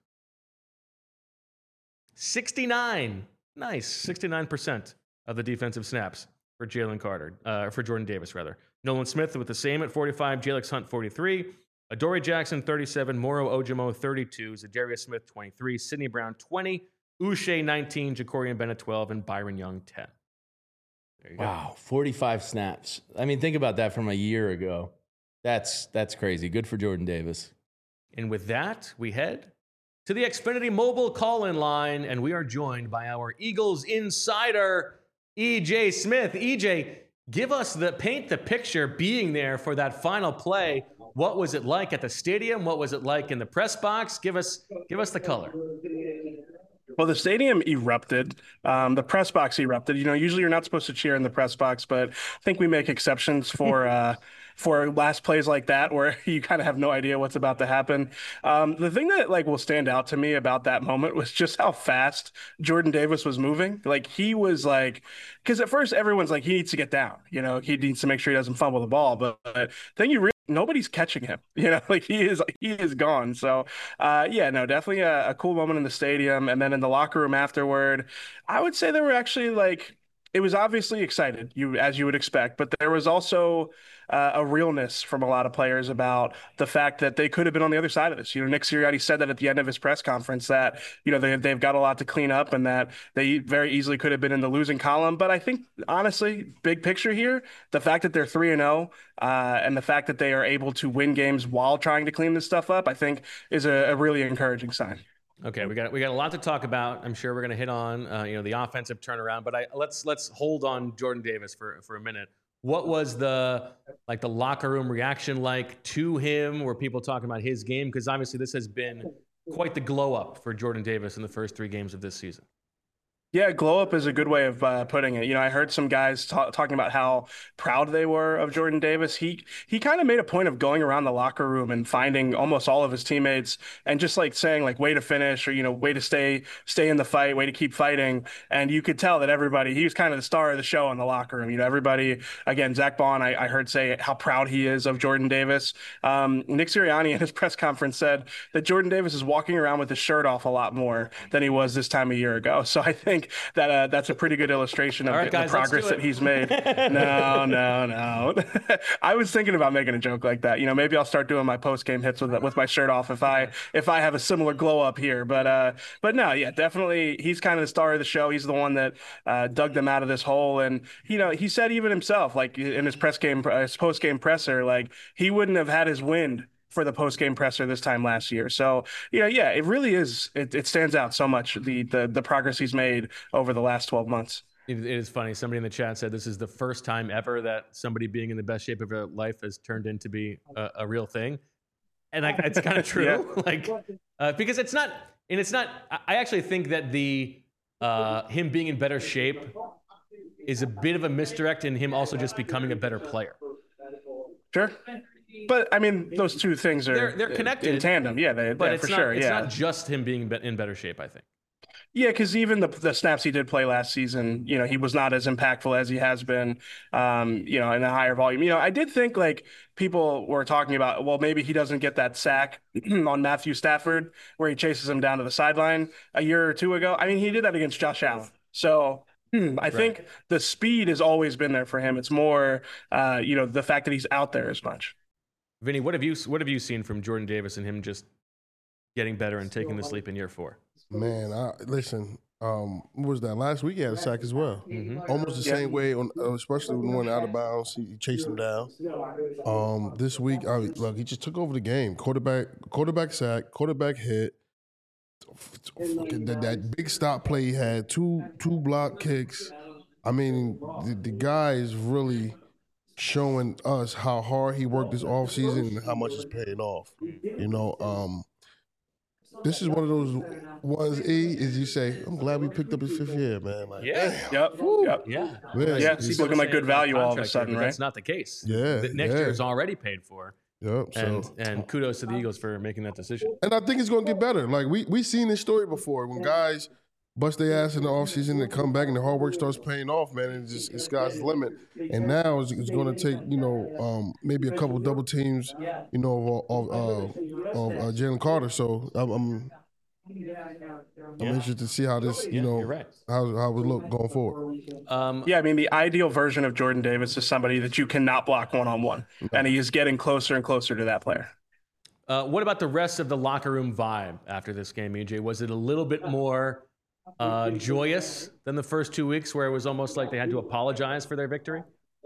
69. Nice. 69% of the defensive snaps for Jalen Carter, for Jordan Davis, rather. Nolan Smith with the same at 45, Jalix Hunt, 43, Adoree Jackson, 37, Moro Ojimo, 32, Zadarius Smith, 23, Sidney Brown, 20, Uche, 19, Jacorian Bennett, 12, and Byron Young, 10. There you go. Wow, 45 snaps. I mean, think about that from a year ago. That's crazy. Good for Jordan Davis. And with that, we head to the Xfinity mobile call-in line, and we are joined by our Eagles insider, EJ Smith. EJ, paint the picture being there for that final play. What was it like at the stadium? What was it like in the press box? Give us the color. Well, the stadium erupted. The press box erupted. You know, usually you're not supposed to cheer in the press box, but I think we make exceptions for last plays like that where you kind of have no idea what's about to happen. The thing that will stand out to me about that moment was just how fast Jordan Davis was moving. Like he was because at first everyone's like, he needs to get down. You know, he needs to make sure he doesn't fumble the ball. But then nobody's catching him. You know, he is gone. So definitely a cool moment in the stadium. And then in the locker room afterward, I would say they were actually it was obviously excited, as you would expect, but there was also a realness from a lot of players about the fact that they could have been on the other side of this. You know, Nick Sirianni said that at the end of his press conference that, you know, they've got a lot to clean up and that they very easily could have been in the losing column. But I think, honestly, big picture here, the fact that they're 3-0 and the fact that they are able to win games while trying to clean this stuff up, I think is a really encouraging sign. Okay, we got a lot to talk about. I'm sure we're going to hit on the offensive turnaround, but let's hold on Jordan Davis for a minute. What was the locker room reaction like to him? Were people talking about his game? Because obviously this has been quite the glow up for Jordan Davis in the first 3 games of this season. Yeah, glow up is a good way of putting it. You know, I heard some guys talking about how proud they were of Jordan Davis. He kind of made a point of going around the locker room and finding almost all of his teammates and just saying way to finish or, you know, way to stay in the fight, way to keep fighting. And you could tell that he was kind of the star of the show in the locker room. You know, everybody, again, Zach Bond, I heard say how proud he is of Jordan Davis. Nick Sirianni in his press conference said that Jordan Davis is walking around with his shirt off a lot more than he was this time a year ago. So I think think that that's a pretty good illustration of All right, the guys, let's progress do that it. he's made. No. I was thinking about making a joke like that. Maybe I'll start doing my post game hits with my shirt off if I have a similar glow up here. But no, yeah, definitely he's kind of the star of the show. He's the one that dug them out of this hole, and he said even himself, like in his post game presser, like he wouldn't have had his wind for the post game presser this time last year. So yeah, it really is. It stands out so much the progress he's made over the last 12 months. It is funny. Somebody in the chat said this is the first time ever that somebody being in the best shape of their life has turned into be a real thing, and it's kind of true. Yeah. Because it's not. I actually think that the him being in better shape is a bit of a misdirect in him also just becoming a better player. Sure. But I mean, those two things are they're connected in tandem. Yeah, for sure. It's not just him being in better shape, I think. Yeah, because even the snaps he did play last season, he was not as impactful as he has been, in a higher volume. I did think like people were talking about, well, maybe he doesn't get that sack on Matthew Stafford where he chases him down to the sideline a year or two ago. I mean, he did that against Josh Allen. So I think the speed has always been there for him. It's more, the fact that he's out there as much. Vinny, what have you seen from Jordan Davis and him just getting better and taking the sleep in year 4? Man, listen. What was that? Last week he had a sack as well. Mm-hmm. Almost the same way especially when he went out of bounds. He chased him down. This week, look, he just took over the game. Quarterback sack, quarterback hit. That big stop play he had, two block kicks. I mean, the guy is really showing us how hard he worked this offseason and how much it's paying off. This is one of those ones, as you say, I'm glad we picked up his 5th year, man. Like, Yep. Yeah. Man, yeah, he's looking like good value all of a sudden, right? That's not the case. Yeah. Next year is already paid for. Yep. And kudos to the Eagles for making that decision. And I think it's going to get better. Like, we seen this story before when guys bust their ass in the offseason and come back and the hard work starts paying off, man. And it's sky's the limit. And now it's going to take, maybe a couple double teams, of Jalen Carter. So I'm interested to see how this, you're right. how it would look going forward. I mean, the ideal version of Jordan Davis is somebody that you cannot block one-on-one. And he is getting closer and closer to that player. What about the rest of the locker room vibe after this game, EJ? Was it a little bit more joyous than the first 2 weeks where it was almost like they had to apologize for their victory?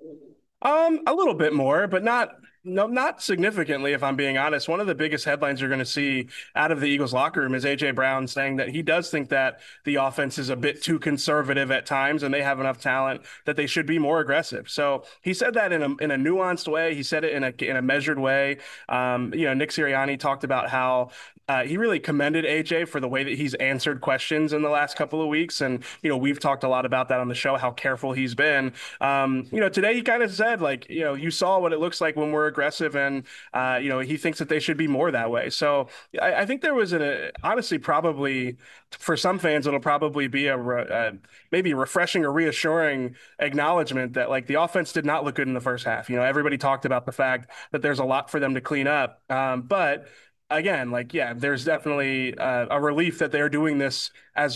A little bit more, but not significantly, if I'm being honest. One of the biggest headlines you're going to see out of the Eagles locker room is A.J. Brown saying that he does think that the offense is a bit too conservative at times and they have enough talent that they should be more aggressive. So he said that in a nuanced way. He said it in a measured way. Nick Sirianni talked about how he really commended AJ for the way that he's answered questions in the last couple of weeks. And, we've talked a lot about that on the show, how careful he's been. Today he kind of said, you saw what it looks like when we're aggressive and, he thinks that they should be more that way. So I think there was honestly, probably for some fans, it'll probably be maybe refreshing or reassuring acknowledgement that the offense did not look good in the first half. Everybody talked about the fact that there's a lot for them to clean up. But again, there's definitely a relief that they're doing this at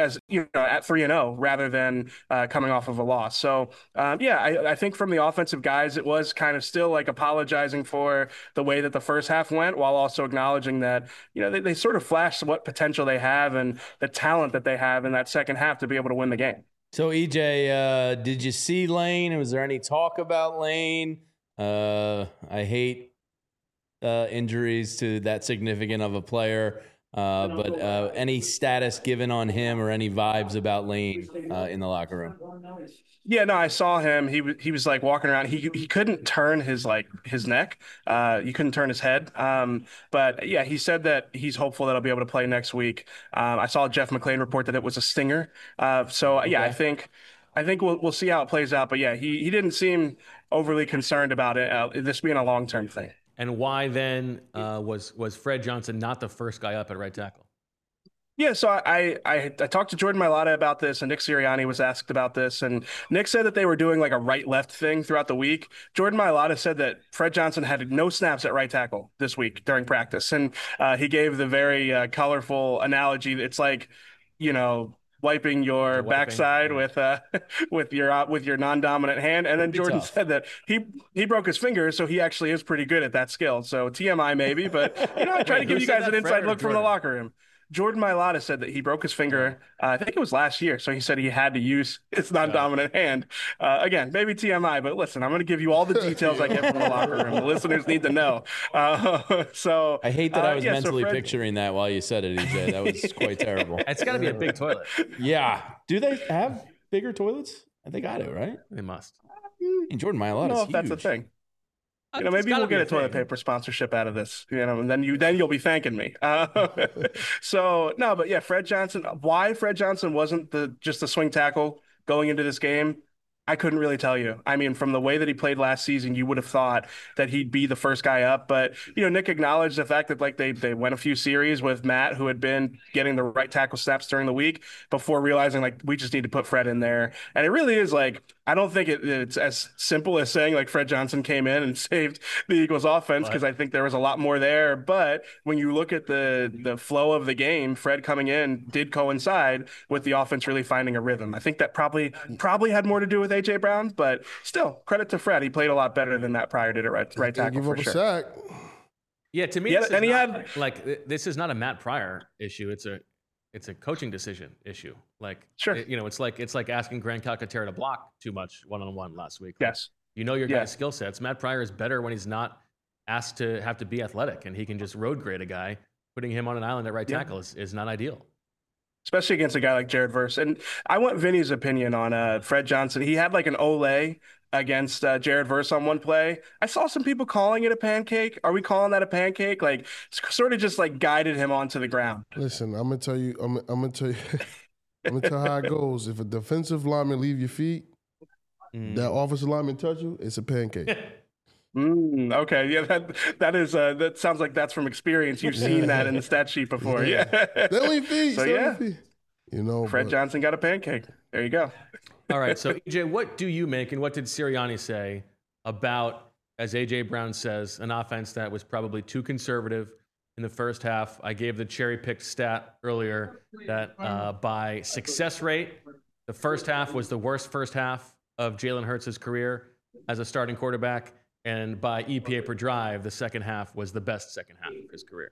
3-0 rather than coming off of a loss. So I think from the offensive guys, it was kind of still apologizing for the way that the first half went, while also acknowledging that they sort of flashed what potential they have and the talent that they have in that second half to be able to win the game. So EJ, did you see Lane? Was there any talk about Lane? I hate injuries to that significant of a player, but any status given on him or any vibes about Lane in the locker room? Yeah, no, I saw him. He was walking around. He couldn't turn his neck. He couldn't turn his head. But yeah, he said that he's hopeful that he'll be able to play next week. I saw Jeff McClain report that it was a stinger. So yeah, okay. I think we'll see how it plays out. But yeah, he didn't seem overly concerned about it. This being a long-term thing. And why then was Fred Johnson not the first guy up at right tackle? Yeah, so I talked to Jordan Mailata about this, and Nick Sirianni was asked about this, and Nick said that they were doing a right-left thing throughout the week. Jordan Mailata said that Fred Johnson had no snaps at right tackle this week during practice, and he gave the very colorful analogy. It's wiping your backside with your non-dominant hand. And then Jordan said that he broke his finger, so he actually is pretty good at that skill. So TMI maybe, but I try to give you guys an inside look from the locker room. Jordan Mailata said that he broke his finger, I think it was last year. So he said he had to use his non-dominant hand. Again, maybe TMI, but listen, I'm going to give you all the details I get from the locker room. The listeners need to know. So I hate that I was mentally picturing that while you said it, EJ. That was quite terrible. It's got to be a big toilet. Yeah. Do they have bigger toilets? I think I do, right? They must. And Jordan Mailata is huge. I don't know if that's a thing. Maybe we'll get a toilet paper sponsorship out of this, and then you'll be thanking me. So no, but yeah, Fred Johnson. Why Fred Johnson wasn't just the swing tackle going into this game? I couldn't really tell you. I mean, from the way that he played last season, you would have thought that he'd be the first guy up. But, Nick acknowledged the fact that they went a few series with Matt, who had been getting the right tackle snaps during the week before realizing we just need to put Fred in there. And it really is I don't think it's as simple as saying Fred Johnson came in and saved the Eagles offense, because I think there was a lot more there. But when you look at the flow of the game, Fred coming in did coincide with the offense really finding a rhythm. I think that probably had more to do with AJ Brown, but still, credit to Fred. He played a lot better than Matt Pryor did at right tackle for sure. Sack. Yeah, to me, this is not a Matt Pryor issue. It's a coaching decision issue. Sure. It's like asking Grant Calcaterra to block too much one-on-one last week. Yes. Your guy's skill sets. Matt Pryor is better when he's not asked to have to be athletic, and he can just road grade a guy. Putting him on an island at right tackle is not ideal. Especially against a guy like Jared Verse. And I want Vinny's opinion on Fred Johnson. He had an Ole against Jared Verse on one play. I saw some people calling it a pancake. Are we calling that a pancake? Sort of just guided him onto the ground. Listen, I'm gonna tell you I'm gonna tell you how it goes. If a defensive lineman leave your feet, that offensive lineman touch you, it's a pancake. Okay, yeah, that sounds like that's from experience. You've seen that in the stat sheet before. Yeah. They leave feet. So yeah. Fred but Johnson got a pancake. There you go. All right, so EJ, what do you make, and what did Sirianni say about, as AJ Brown says, an offense that was probably too conservative in the first half? I gave the cherry-picked stat earlier that by success rate, the first half was the worst first half of Jalen Hurts' career as a starting quarterback, and by EPA per drive, the second half was the best second half of his career.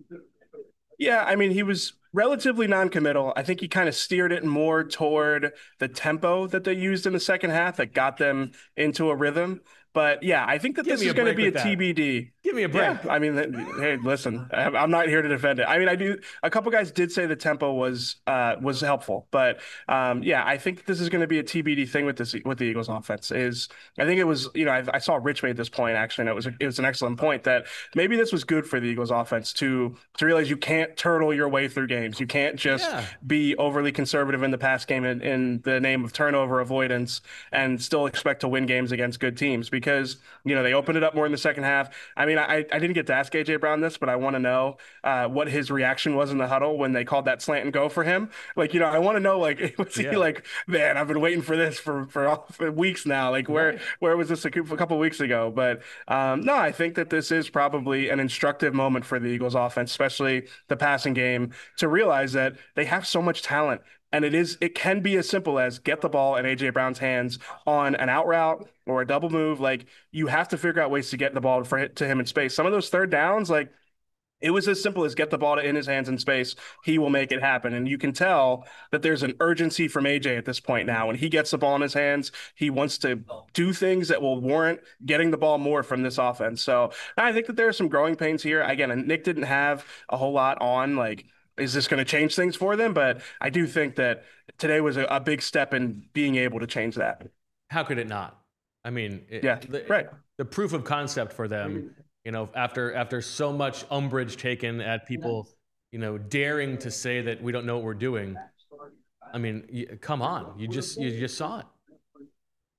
Yeah, I mean, he was relatively non-committal. I think he kind of steered it more toward the tempo that they used in the second half that got them into a rhythm. But yeah, I think that this is going to be a TBD. Give me a break. Yeah, I mean, hey, listen, I'm not here to defend it. I mean, I do. A couple guys did say the tempo was helpful, but yeah, I think this is going to be a TBD thing with the Eagles offense. I think it was, I saw Rich made this point actually, and it was an excellent point that maybe this was good for the Eagles offense to realize you can't turtle your way through games. You can't just be overly conservative in the pass game in the name of turnover avoidance and still expect to win games against good teams, because they opened it up more in the second half. I mean, I didn't get to ask AJ Brown this, but I want to know what his reaction was in the huddle when they called that slant and go for him. I want to know, was he man, I've been waiting for this for weeks now. Where was this a couple of weeks ago? But no, I think that this is probably an instructive moment for the Eagles offense, especially the passing game, to realize that they have so much talent. And it can be as simple as get the ball in AJ Brown's hands on an out route or a double move. You have to figure out ways to get the ball to him in space. Some of those third downs, it was as simple as get the ball in his hands in space. He will make it happen. And you can tell that there's an urgency from AJ at this point now. When he gets the ball in his hands, he wants to do things that will warrant getting the ball more from this offense. So I think that there are some growing pains here. Again, Nick didn't have a whole lot on, is this going to change things for them? But I do think that today was a big step in being able to change that. How could it not? I mean, right. The proof of concept for them, after so much umbrage taken at people, daring to say that we don't know what we're doing. I mean, come on, you just saw it.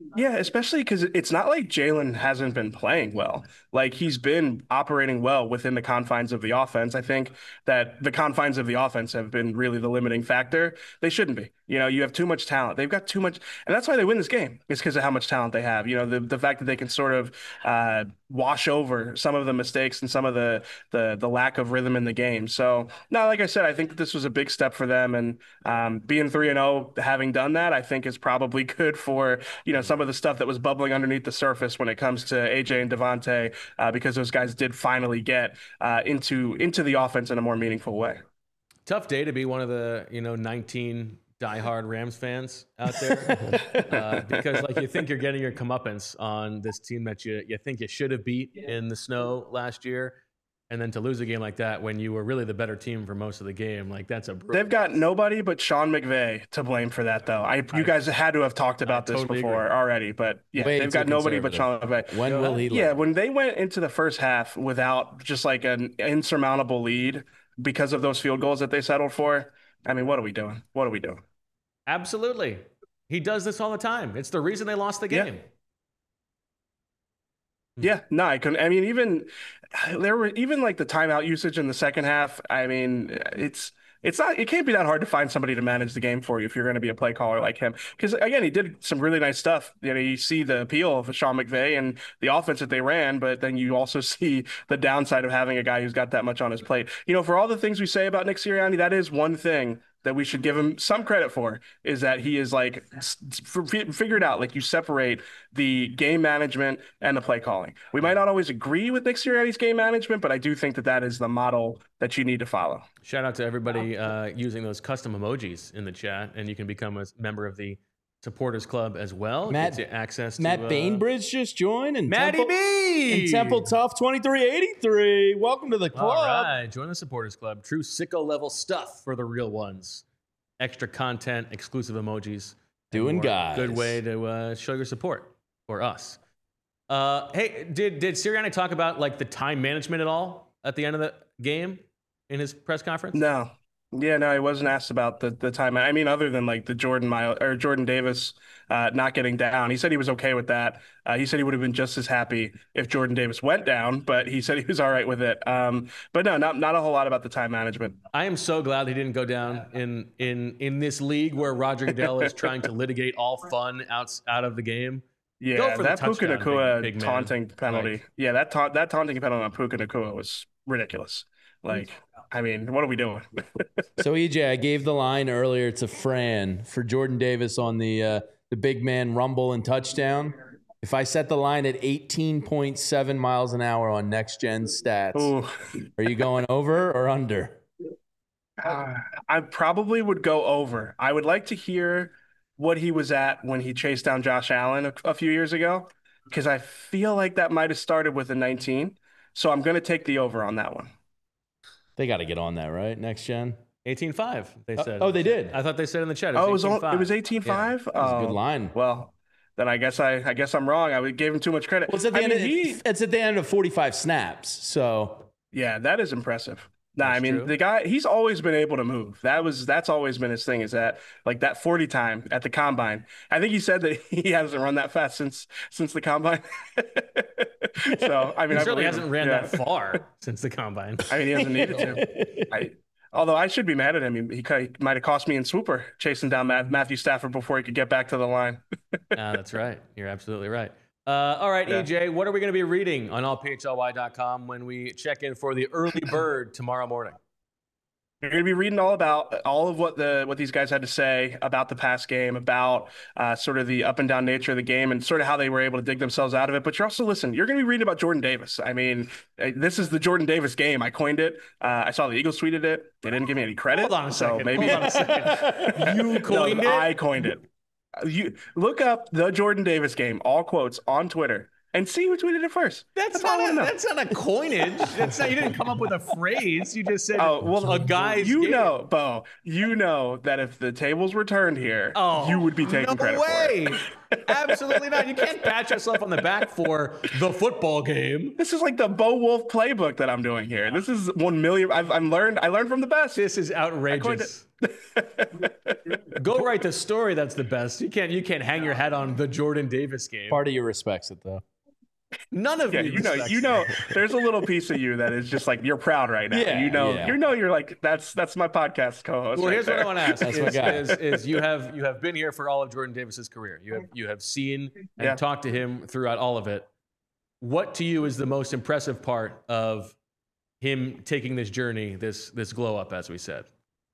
Yeah, especially because it's not like Jalen hasn't been playing well. Like he's been operating well within the confines of the offense. I think that the confines of the offense have been really the limiting factor. They shouldn't be. You have too much talent. They've got too much, and that's why they win this game. It's because of how much talent they have. The fact that they can sort of wash over some of the mistakes and some of the lack of rhythm in the game. So, no, like I said, I think that this was a big step for them, and being 3-0, having done that, I think is probably good for some of the stuff that was bubbling underneath the surface when it comes to AJ and Devontae, because those guys did finally get into the offense in a more meaningful way. Tough day to be one of the 19 diehard Rams fans out there, because like you think you're getting your comeuppance on this team that you think you should have beat in the snow last year. And then to lose a game like that when you were really the better team for most of the game, like that's a brutal. They've got nobody but Sean McVay to blame for that, though. You guys had to have talked about this totally before agree. already, but yeah, Way they've too got nobody but Sean conservative. McVay. When will he Yeah, learn? when they went into the first half without just like an insurmountable lead because of those field goals that they settled for, I mean, what are we doing? What are we doing? Absolutely. He does this all the time. It's the reason they lost the game. Yeah, no, I couldn't. I mean, there were like the timeout usage in the second half. I mean, it can't be that hard to find somebody to manage the game for you if you're going to be a play caller like him. Because again, he did some really nice stuff. You see the appeal of Sean McVay and the offense that they ran, but then you also see the downside of having a guy who's got that much on his plate. For all the things we say about Nick Sirianni, that is one thing that we should give him some credit for, is that he is like figured out, like you separate the game management and the play calling. We might not always agree with Nick Sirianni's game management, but I do think that is the model that you need to follow. Shout out to everybody using those custom emojis in the chat, and you can become a member of the Supporters Club as well. Matt, Gets you access to Matt Bainbridge just joined, and Matty B and Temple Tough 2383. Welcome to the club. All right, join the Supporters Club. True sicko level stuff for the real ones. Extra content, exclusive emojis. Doing guys. Good way to show your support for us. Hey, did Sirianni talk about like the time management at all at the end of the game in his press conference? No. Yeah, no, he wasn't asked about the time. I mean, other than like the Jordan Davis not getting down. He said he was okay with that. He said he would have been just as happy if Jordan Davis went down, but he said he was all right with it. But no, not a whole lot about the time management. I am so glad he didn't go down in this league where Roger Goodell is trying to litigate all fun out of the game. Yeah, that Puka Nacua big taunting penalty. Yeah, that taunting penalty on Puka Nacua was ridiculous. Like, I mean, what are we doing? So EJ, I gave the line earlier to Fran for Jordan Davis on the big man rumble and touchdown. If I set the line at 18.7 miles an hour on next gen stats, are you going over or under? I probably would go over. I would like to hear what he was at when he chased down Josh Allen a few years ago, because I feel like that might have started with a 19. So I'm going to take the over on that one. They got to get on that, right? Next gen? 18.5, they said. Oh, they did? I thought they said in the chat. It was 18.5? Yeah. That was a good line. Well, then I guess I'm wrong. I gave him too much credit. Well, it's at the end of 45 snaps. So yeah, that is impressive. Nah, That's I mean, true. the guy, he's always been able to move. That's always been his thing, is that like that 40 time at the combine. I think he said that he hasn't run that fast since the combine. So, I mean, He certainly hasn't ran that far since the combine. I mean, he hasn't needed to. Although I should be mad at him. He might have cost me in Swooper chasing down Matthew Stafford before he could get back to the line. That's right. You're absolutely right. All right, Yeah. EJ, what are we going to be reading on allphly.com when we check in for the early bird tomorrow morning? You're going to be reading all about all of what these guys had to say about the past game, about sort of the up and down nature of the game, and sort of how they were able to dig themselves out of it. But you're also you're going to be reading about Jordan Davis. I mean, this is the Jordan Davis game. I coined it. I saw the Eagles tweeted it. They didn't give me any credit. Hold on a second. So maybe Hold on a second. You coined it? I coined it. You look up the Jordan Davis game, all quotes, on Twitter, and see who tweeted it first. That's not a coinage. You didn't come up with a phrase. You just said, a guy's game. Bo, you know that if the tables were turned here, you would be taking credit for it. Absolutely not. You can't pat yourself on the back for the football game. This is like the Bo Wolf playbook that I'm doing here. This is 1 million. I learned from the best. This is outrageous. Go write the story that's the best. You can't hang your hat on the Jordan Davis game. Part of you respects it though. None of Yeah, you you know, there's a little piece of you that is just like you're proud right now. Yeah, you're like that's my podcast co-host. Well, right here's there. what I want to ask: That's my guy. is you have been here for all of Jordan Davis's career. You have seen and Yeah. talked to him throughout all of it. What to you is the most impressive part of him taking this journey, this glow up, as we said?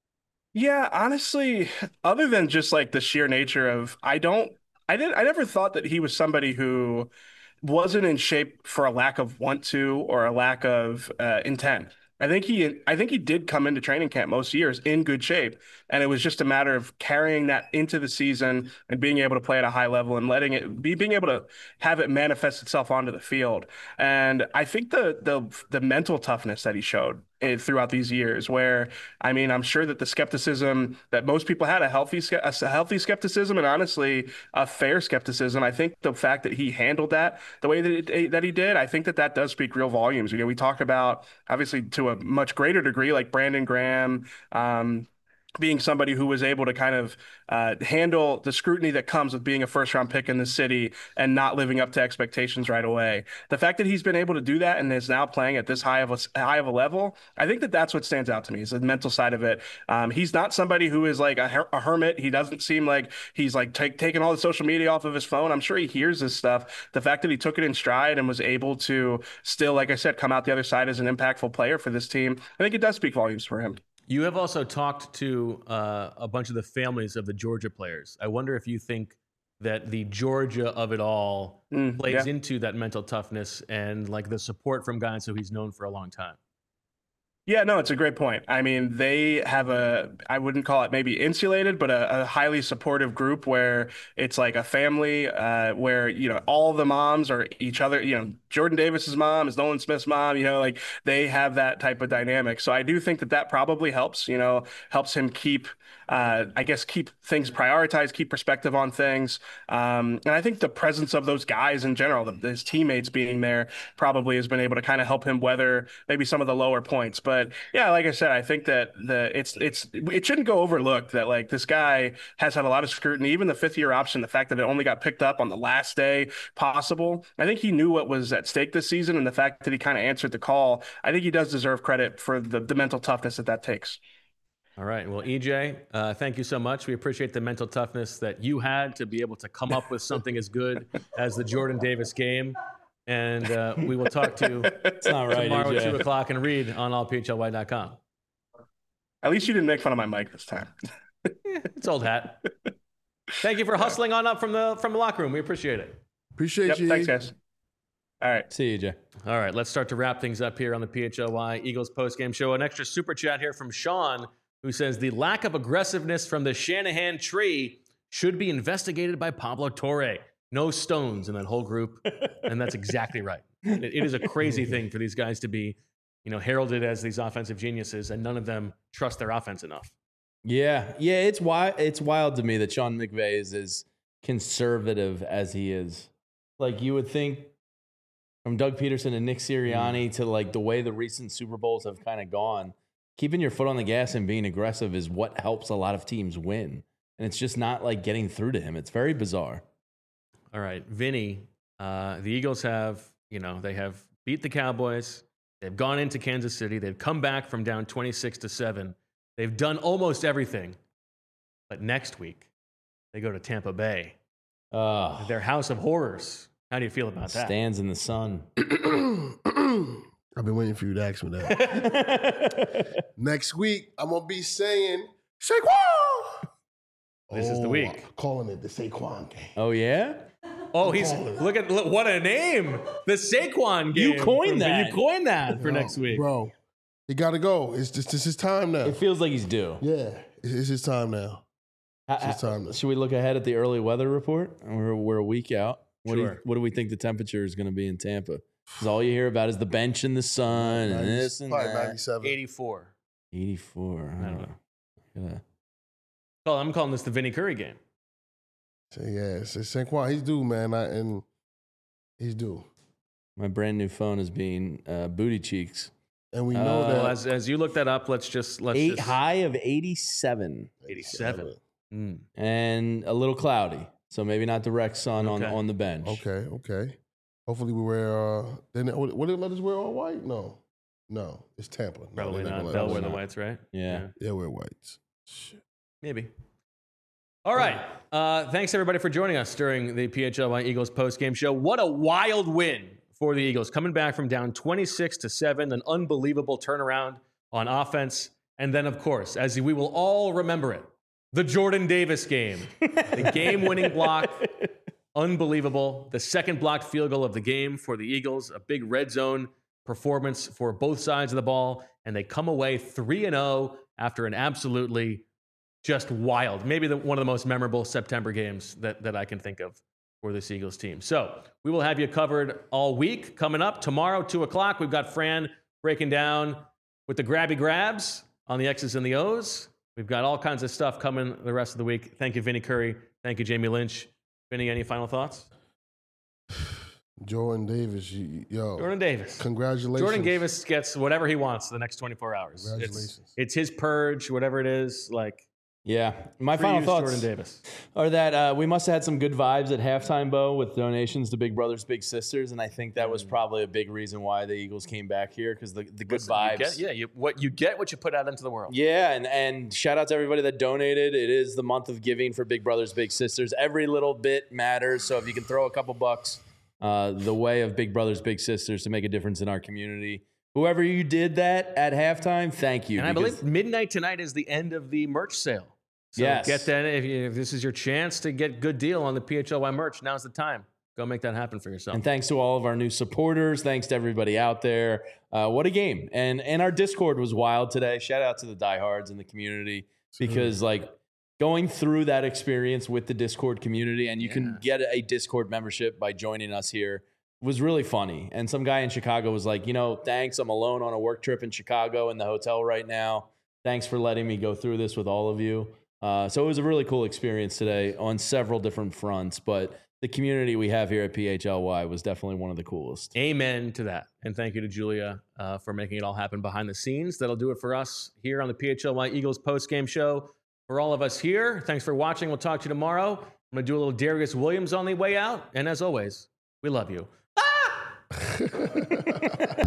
Yeah, honestly, other than just like the sheer nature of I never thought that he was somebody who wasn't in shape for a lack of want to or a lack of intent. I think he did come into training camp most years in good shape, and it was just a matter of carrying that into the season and being able to play at a high level and being able to have it manifest itself onto the field. And I think the mental toughness that he showed throughout these years, where I mean, I'm sure that the skepticism that most people had, a healthy skepticism, and honestly a fair skepticism. I think the fact that he handled that the way that he did, I think that does speak real volumes. We talk about obviously to a much greater degree, like Brandon Graham. Being somebody who was able to kind of handle the scrutiny that comes with being a first-round pick in the city and not living up to expectations right away. The fact that he's been able to do that and is now playing at this high of a level, I think that's what stands out to me is the mental side of it. He's not somebody who is like a hermit. He doesn't seem like he's like taking all the social media off of his phone. I'm sure he hears this stuff. The fact that he took it in stride and was able to still, like I said, come out the other side as an impactful player for this team, I think it does speak volumes for him. You have also talked to a bunch of the families of the Georgia players. I wonder if you think that the Georgia of it all plays into that mental toughness and like the support from guys who he's known for a long time. Yeah, no, it's a great point. I mean, they have I wouldn't call it maybe insulated, but a highly supportive group where it's like a family where, all the moms are each other, Jordan Davis's mom is Nolan Smith's mom, like they have that type of dynamic. So I do think that probably helps, helps him keep things prioritized, keep perspective on things. And I think the presence of those guys in general, his teammates being there probably has been able to kind of help him weather maybe some of the lower points. But yeah, like I said, I think that it shouldn't go overlooked that like this guy has had a lot of scrutiny, even the 5th-year option, the fact that it only got picked up on the last day possible. I think he knew what was at stake this season, and the fact that he kind of answered the call, I think he does deserve credit for the mental toughness that takes. All right. Well, EJ, thank you so much. We appreciate the mental toughness that you had to be able to come up with something as good as the Jordan Davis game. And we will talk to you tomorrow at 2 o'clock and read on allphlY.com. At least you didn't make fun of my mic this time. It's old hat. Thank you for hustling on up from the locker room. We appreciate it. Appreciate you. Thanks, guys. All right. See you, EJ. All right. Let's start to wrap things up here on the PHLY Eagles postgame show. An extra super chat here from Sean, who says the lack of aggressiveness from the Shanahan tree should be investigated by Pablo Torre. No stones in that whole group. And that's exactly right. It is a crazy thing for these guys to be, heralded as these offensive geniuses, and none of them trust their offense enough. Yeah. It's wild to me that Sean McVay is as conservative as he is. Like you would think from Doug Peterson and Nick Sirianni to like the way the recent Super Bowls have kind of gone, keeping your foot on the gas and being aggressive is what helps a lot of teams win. And it's just not like getting through to him. It's very bizarre. All right, Vinny, the Eagles have, they have beat the Cowboys. They've gone into Kansas City. They've come back from down 26-7. They've done almost everything. But next week, they go to Tampa Bay. Their house of horrors. How do you feel about that? Stands in the sun. I've been waiting for you to ask me that. Next week, I'm going to be saying, Saquon! This is the week. I'm calling it the Saquon game. Oh, yeah? Oh, look, what a name. The Saquon game. You coined that. You coined that for next week. Bro, he got to go. It's his time now. It feels like he's due. Yeah, it's his time now. It's his time now. Should we look ahead at the early weather report? We're a week out. What do we think the temperature is going to be in Tampa? Because all you hear about is the bench in the sun and this and probably that. 97. 84. 84. I don't know. Yeah. Well, I'm calling this the Vinny Curry game. So, yeah, it's Saquon. He's due, man. And he's due. My brand new phone is being booty cheeks. And we know that as you look that up, let's just high of 87. 87. And a little cloudy. So maybe not direct sun on the bench. Okay. Hopefully we wear. What did let us wear all white? No, it's Tampa. Probably not. They'll wear the whites, right? Yeah. They'll wear whites. Shit. Maybe. All right. Thanks everybody for joining us during the PHLY Eagles post-game show. What a wild win for the Eagles, coming back from down 26-7, an unbelievable turnaround on offense, and then of course, as we will all remember it, the Jordan Davis game, the game-winning block. Unbelievable. The second blocked field goal of the game for the Eagles, a big red zone performance for both sides of the ball, and they come away 3-0 after an absolutely just wild, maybe one of the most memorable September games that I can think of for this Eagles team. So we will have you covered all week. Coming up tomorrow, 2 o'clock, we've got Fran breaking down with the grabby grabs on the X's and the O's. We've got all kinds of stuff coming the rest of the week. Thank you, Vinny Curry. Thank you, Jamie Lynch. Vinny, any final thoughts? Jordan Davis, Jordan Davis. Congratulations. Jordan Davis gets whatever he wants the next 24 hours. Congratulations. It's his purge, whatever it is. Yeah. My final thoughts Jordan Davis. are that we must have had some good vibes at halftime, Bo, with donations to Big Brothers Big Sisters, and I think that was probably a big reason why the Eagles came back here, because the good vibes. You get what you put out into the world. Yeah, and shout out to everybody that donated. It is the month of giving for Big Brothers Big Sisters. Every little bit matters, so if you can throw a couple bucks the way of Big Brothers Big Sisters to make a difference in our community. Whoever you did that at halftime, thank you. And I believe midnight tonight is the end of the merch sale. So yes. Get that. If this is your chance to get good deal on the PHLY merch, now's the time. Go make that happen for yourself. And thanks to all of our new supporters. Thanks to everybody out there. What a game. And our Discord was wild today. Shout out to the diehards in the community, because going through that experience with the Discord community, and you can get a Discord membership by joining us here, was really funny. And some guy in Chicago was like, thanks. I'm alone on a work trip in Chicago in the hotel right now. Thanks for letting me go through this with all of you. So it was a really cool experience today on several different fronts, but the community we have here at PHLY was definitely one of the coolest. Amen to that. And thank you to Julia for making it all happen behind the scenes. That'll do it for us here on the PHLY Eagles post-game show. For all of us here, thanks for watching. We'll talk to you tomorrow. I'm going to do a little Darius Williams on the way out. And as always, we love you. Ah!